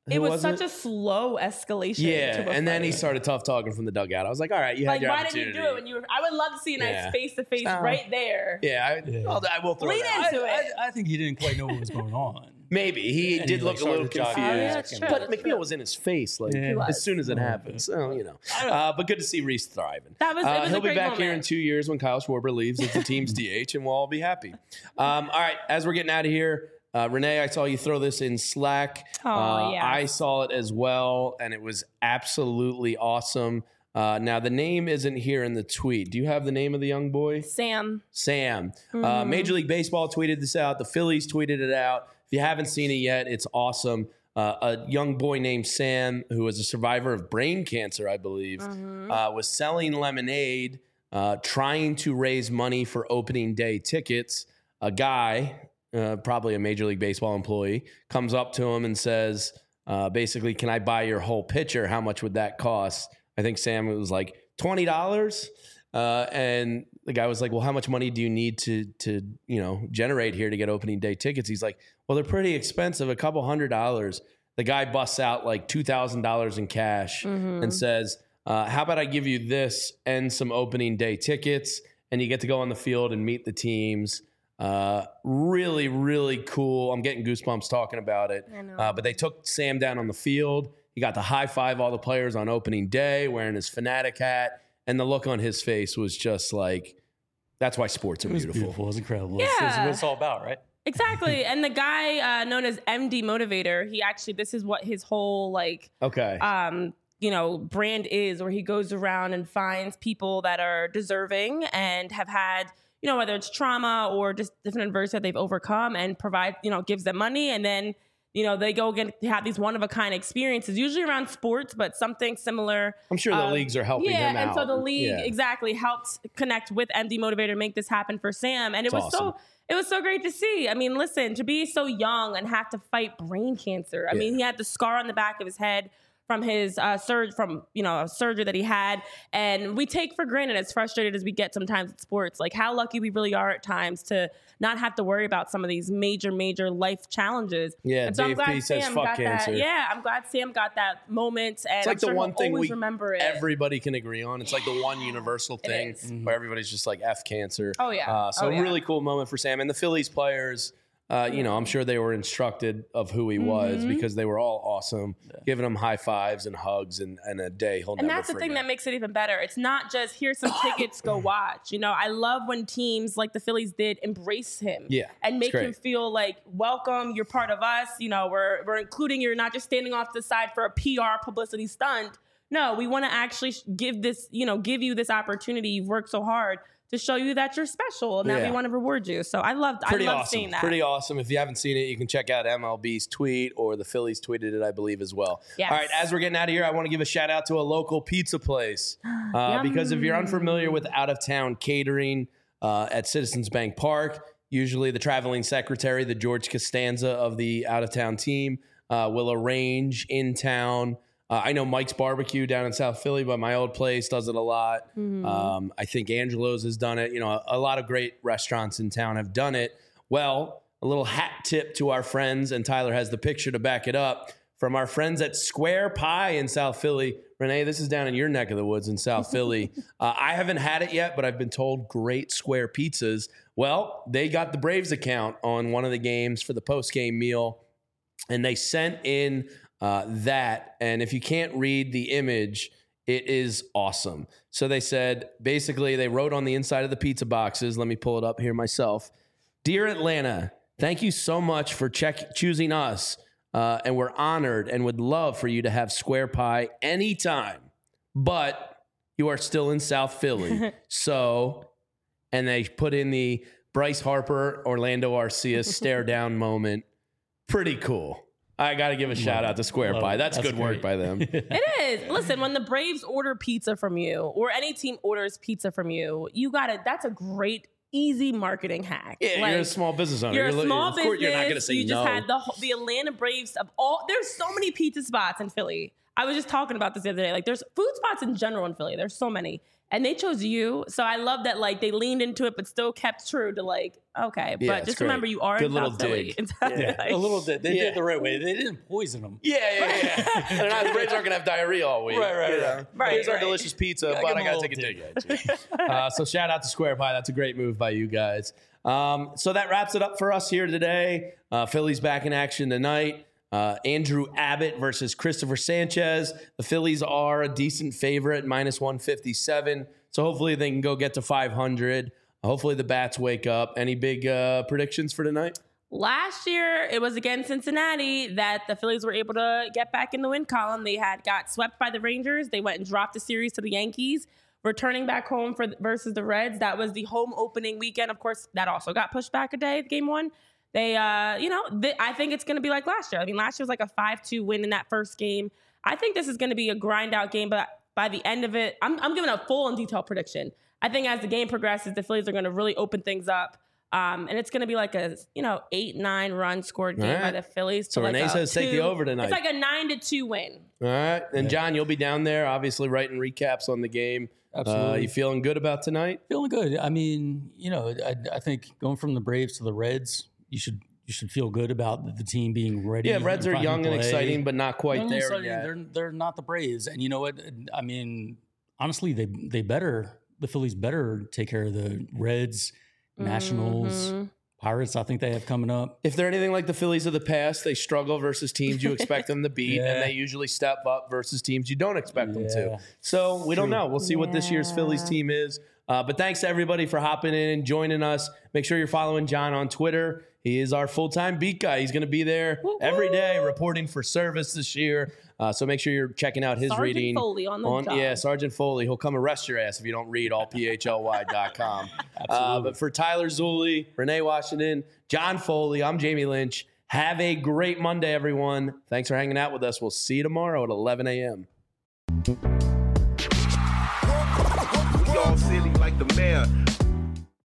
it was, was such it? a slow escalation. Yeah, to a and then he fight. started tough talking from the dugout. I was like, all right, you had Like, your why didn't opportunity. you do it when you were? I would love to see a nice Yeah. face to face Uh, right there. Yeah, I, Yeah. I'll- I will throw Lean that. into I, it. I, I think he didn't quite know what was going on. Maybe he And did he, look like, a little started jogging confused, Oh, yeah, that's true. but That's McNeil true. was in his face like Yeah. He was. as soon as it Oh, happened. okay. So you know, uh, but good to see Reese thriving. That was- it Uh, was a he'll be great back here in moment. two years when Kyle Schwarber leaves as the team's D H, and we'll all be happy. Um, all right, as we're getting out of here. Uh, Renee, I saw you throw this in Slack. Oh, uh, yeah. I saw it as well, and it was absolutely awesome. Uh, now, the name isn't here in the tweet. Do you have the name of the young boy? Sam. Sam. Mm-hmm. Uh, Major League Baseball tweeted this out. The Phillies tweeted it out. If you haven't seen it yet, it's awesome. Uh, a young boy named Sam, who was a survivor of brain cancer, I believe, Mm-hmm. uh, was selling lemonade, uh, trying to raise money for opening day tickets. A guy, uh, probably a Major League Baseball employee, comes up to him and says, uh, basically, can I buy your whole pitcher? How much would that cost? I think Sam was like twenty dollars. Uh, and the guy was like, well, how much money do you need to, to, you know, generate here to get opening day tickets? He's like, well, they're pretty expensive, a couple hundred dollars. The guy busts out like two thousand dollars in cash Mm-hmm. and says, uh, how about I give you this and some opening day tickets, and you get to go on the field and meet the teams. Uh, really, really cool. I'm getting goosebumps talking about it. I know. Uh, but they took Sam down on the field. He got to high five all the players on opening day wearing his Fanatic hat. And the look on his face was just like, that's why sports are It was beautiful. beautiful. It was incredible. This is Yeah. what it's all about, right? Exactly. And the guy uh, known as M D Motivator, he actually, this is what his whole like, Okay. um, you know, brand is, where he goes around and finds people that are deserving and have had, you know, whether it's trauma or just different adversity that they've overcome, and provide, you know, gives them money. And then, you know, they go again, have these one of a kind experiences, usually around sports, but something similar. I'm sure the um, leagues are helping yeah, him out. and so the league Yeah. exactly helped connect with M D Motivator, make this happen for Sam. And it It's was awesome. so it was so great to see. I mean, listen, to be so young and have to fight brain cancer. I mean, he had the scar on the back of his head from his uh, surge from you know a surgery that he had, and we take for granted, as frustrated as we get sometimes at sports, like how lucky we really are at times to not have to worry about some of these major, major life challenges. Yeah, and so Dave I'm glad P says, Sam "Fuck got cancer." that. Yeah, I'm glad Sam got that moment, and It's like I'm sure the one he'll thing always we remember it. everybody can agree on. It's like the one universal It thing is. where everybody's just like F cancer. Oh, yeah. Uh, so Oh, a yeah. really cool moment for Sam and the Phillies players. Uh, you know, I'm sure they were instructed of who he was Mm-hmm. because they were all awesome, giving him high fives and hugs and, and a day he'll And never that's the forget. thing that makes it even better. It's not just here's some tickets, go watch. You know, I love when teams like the Phillies did embrace him, Yeah, and make it's great. him feel like welcome. You're part of us. You know, we're we're including you. You're not just standing off to the side for a P R publicity stunt. No, we want to actually give this, you know, give you this opportunity. You've worked so hard to show you that you're special, and now Yeah. we want to reward you. So I loved, Pretty I love awesome. seeing that. Pretty awesome. If you haven't seen it, you can check out M L B's tweet, or the Phillies tweeted it, I believe, as well. Yes. All right, as we're getting out of here, I want to give a shout out to a local pizza place. Uh, because if you're unfamiliar with out of town catering uh, at Citizens Bank Park, usually the traveling secretary, the George Costanza of the out of town team, uh, will arrange in town. Uh, I know Mike's Barbecue down in South Philly, but my old place does it a lot. Um, I think Angelo's has done it. You know, a, a lot of great restaurants in town have done it. Well, a little hat tip to our friends, and Tyler has the picture to back it up, from our friends at Square Pie in South Philly. Renee, this is down in your neck of the woods in South Philly. Uh, I haven't had it yet, but I've been told great square pizzas. Well, they got the Braves account on one of the games for the post-game meal, and they sent in uh, that. And if you can't read the image, it is awesome. So they said, basically, they wrote on the inside of the pizza boxes, let me pull it up here myself. Dear Atlanta, thank you so much for check- choosing us. Uh, and we're honored and would love for you to have Square Pie anytime. But you are still in South Philly. So, and they put in the Bryce Harper, Orlando Arcia stare down moment. Pretty cool. I got to give a shout out to Square Love Pie. it. That's, That's good work great. by them. It is. Listen, when the Braves order pizza from you, or any team orders pizza from you, you got it. That's a great, easy marketing hack. Yeah, Like, you're a small business owner. You're a li- small of business. course you're not going to say you no. just had the whole- the Atlanta Braves of all. There's so many pizza spots in Philly. I was just talking about this the other day. Like, there's food spots in general in Philly. There's so many. And they chose you. So I love that, like, they leaned into it, but still kept true to, like, okay. Yeah, but just great. remember, you are Good in little South Philly. dig. Yeah, Like, a little bit. They Yeah. did it the right way. They didn't poison them. Yeah, yeah, yeah. They're not, the Braves aren't going to have diarrhea all week. Right, right, you know? right. Right, Here's our right. delicious pizza, Gotta but give I 'em got a to take a little dig at you. Uh, so shout out to Square Pie. That's a great move by you guys. Um, so that wraps it up for us here today. Uh, Phillies back in action tonight. Uh, Andrew Abbott versus Christopher Sanchez. The Phillies are a decent favorite, minus one fifty-seven. So hopefully they can go get to five hundred. Hopefully the bats wake up. Any big uh, predictions for tonight? Last year, it was against Cincinnati that the Phillies were able to get back in the win column. They had got swept by the Rangers. They went and dropped the series to the Yankees. Returning back home for versus the Reds. That was the home opening weekend. Of course, that also got pushed back a day, game one. They, uh, you know, th- I think it's going to be like last year. I mean, last year was like a five two win in that first game. I think this is going to be a grind out game, but by the end of it, I'm, I'm giving a full and detailed prediction. I think as the game progresses, the Phillies are going to really open things up. Um, and it's going to be like a, you know, eight, nine run scored game All right. by the Phillies. So to Renee like a says take the two- over tonight. It's like a nine to two win. All right. And John, you'll be down there, obviously writing recaps on the game. Absolutely. Uh, you feeling good about tonight? Feeling good. I mean, you know, I, I think going from the Braves to the Reds, you should you should feel good about the team being ready. Yeah, Reds are and young and play. exciting, but not quite Young and there exciting, yet. They're they're not the Braves, and you know what? I mean, honestly, they they better the Phillies better take care of the Reds, Nationals, Mhm. Pirates. I think they have coming up. If they're anything like the Phillies of the past, they struggle versus teams you expect them to beat, Yeah. and they usually step up versus teams you don't expect them to. Yeah. So we don't know. We'll see what this year's Phillies team is. Uh, but thanks to everybody for hopping in and joining us. Make sure you're following John on Twitter. He is our full-time beat guy. He's going to be there every day reporting for service this year. Uh, so make sure you're checking out his Sergeant reading. Foley on the job. Yeah, Sergeant Foley. He'll come arrest your ass if you don't read all P H L Y dot com. uh, but for Tyler Zulli, Renee Washington, John Foley, I'm Jamie Lynch. Have a great Monday, everyone. Thanks for hanging out with us. We'll see you tomorrow at eleven a.m. We all silly like the mayor.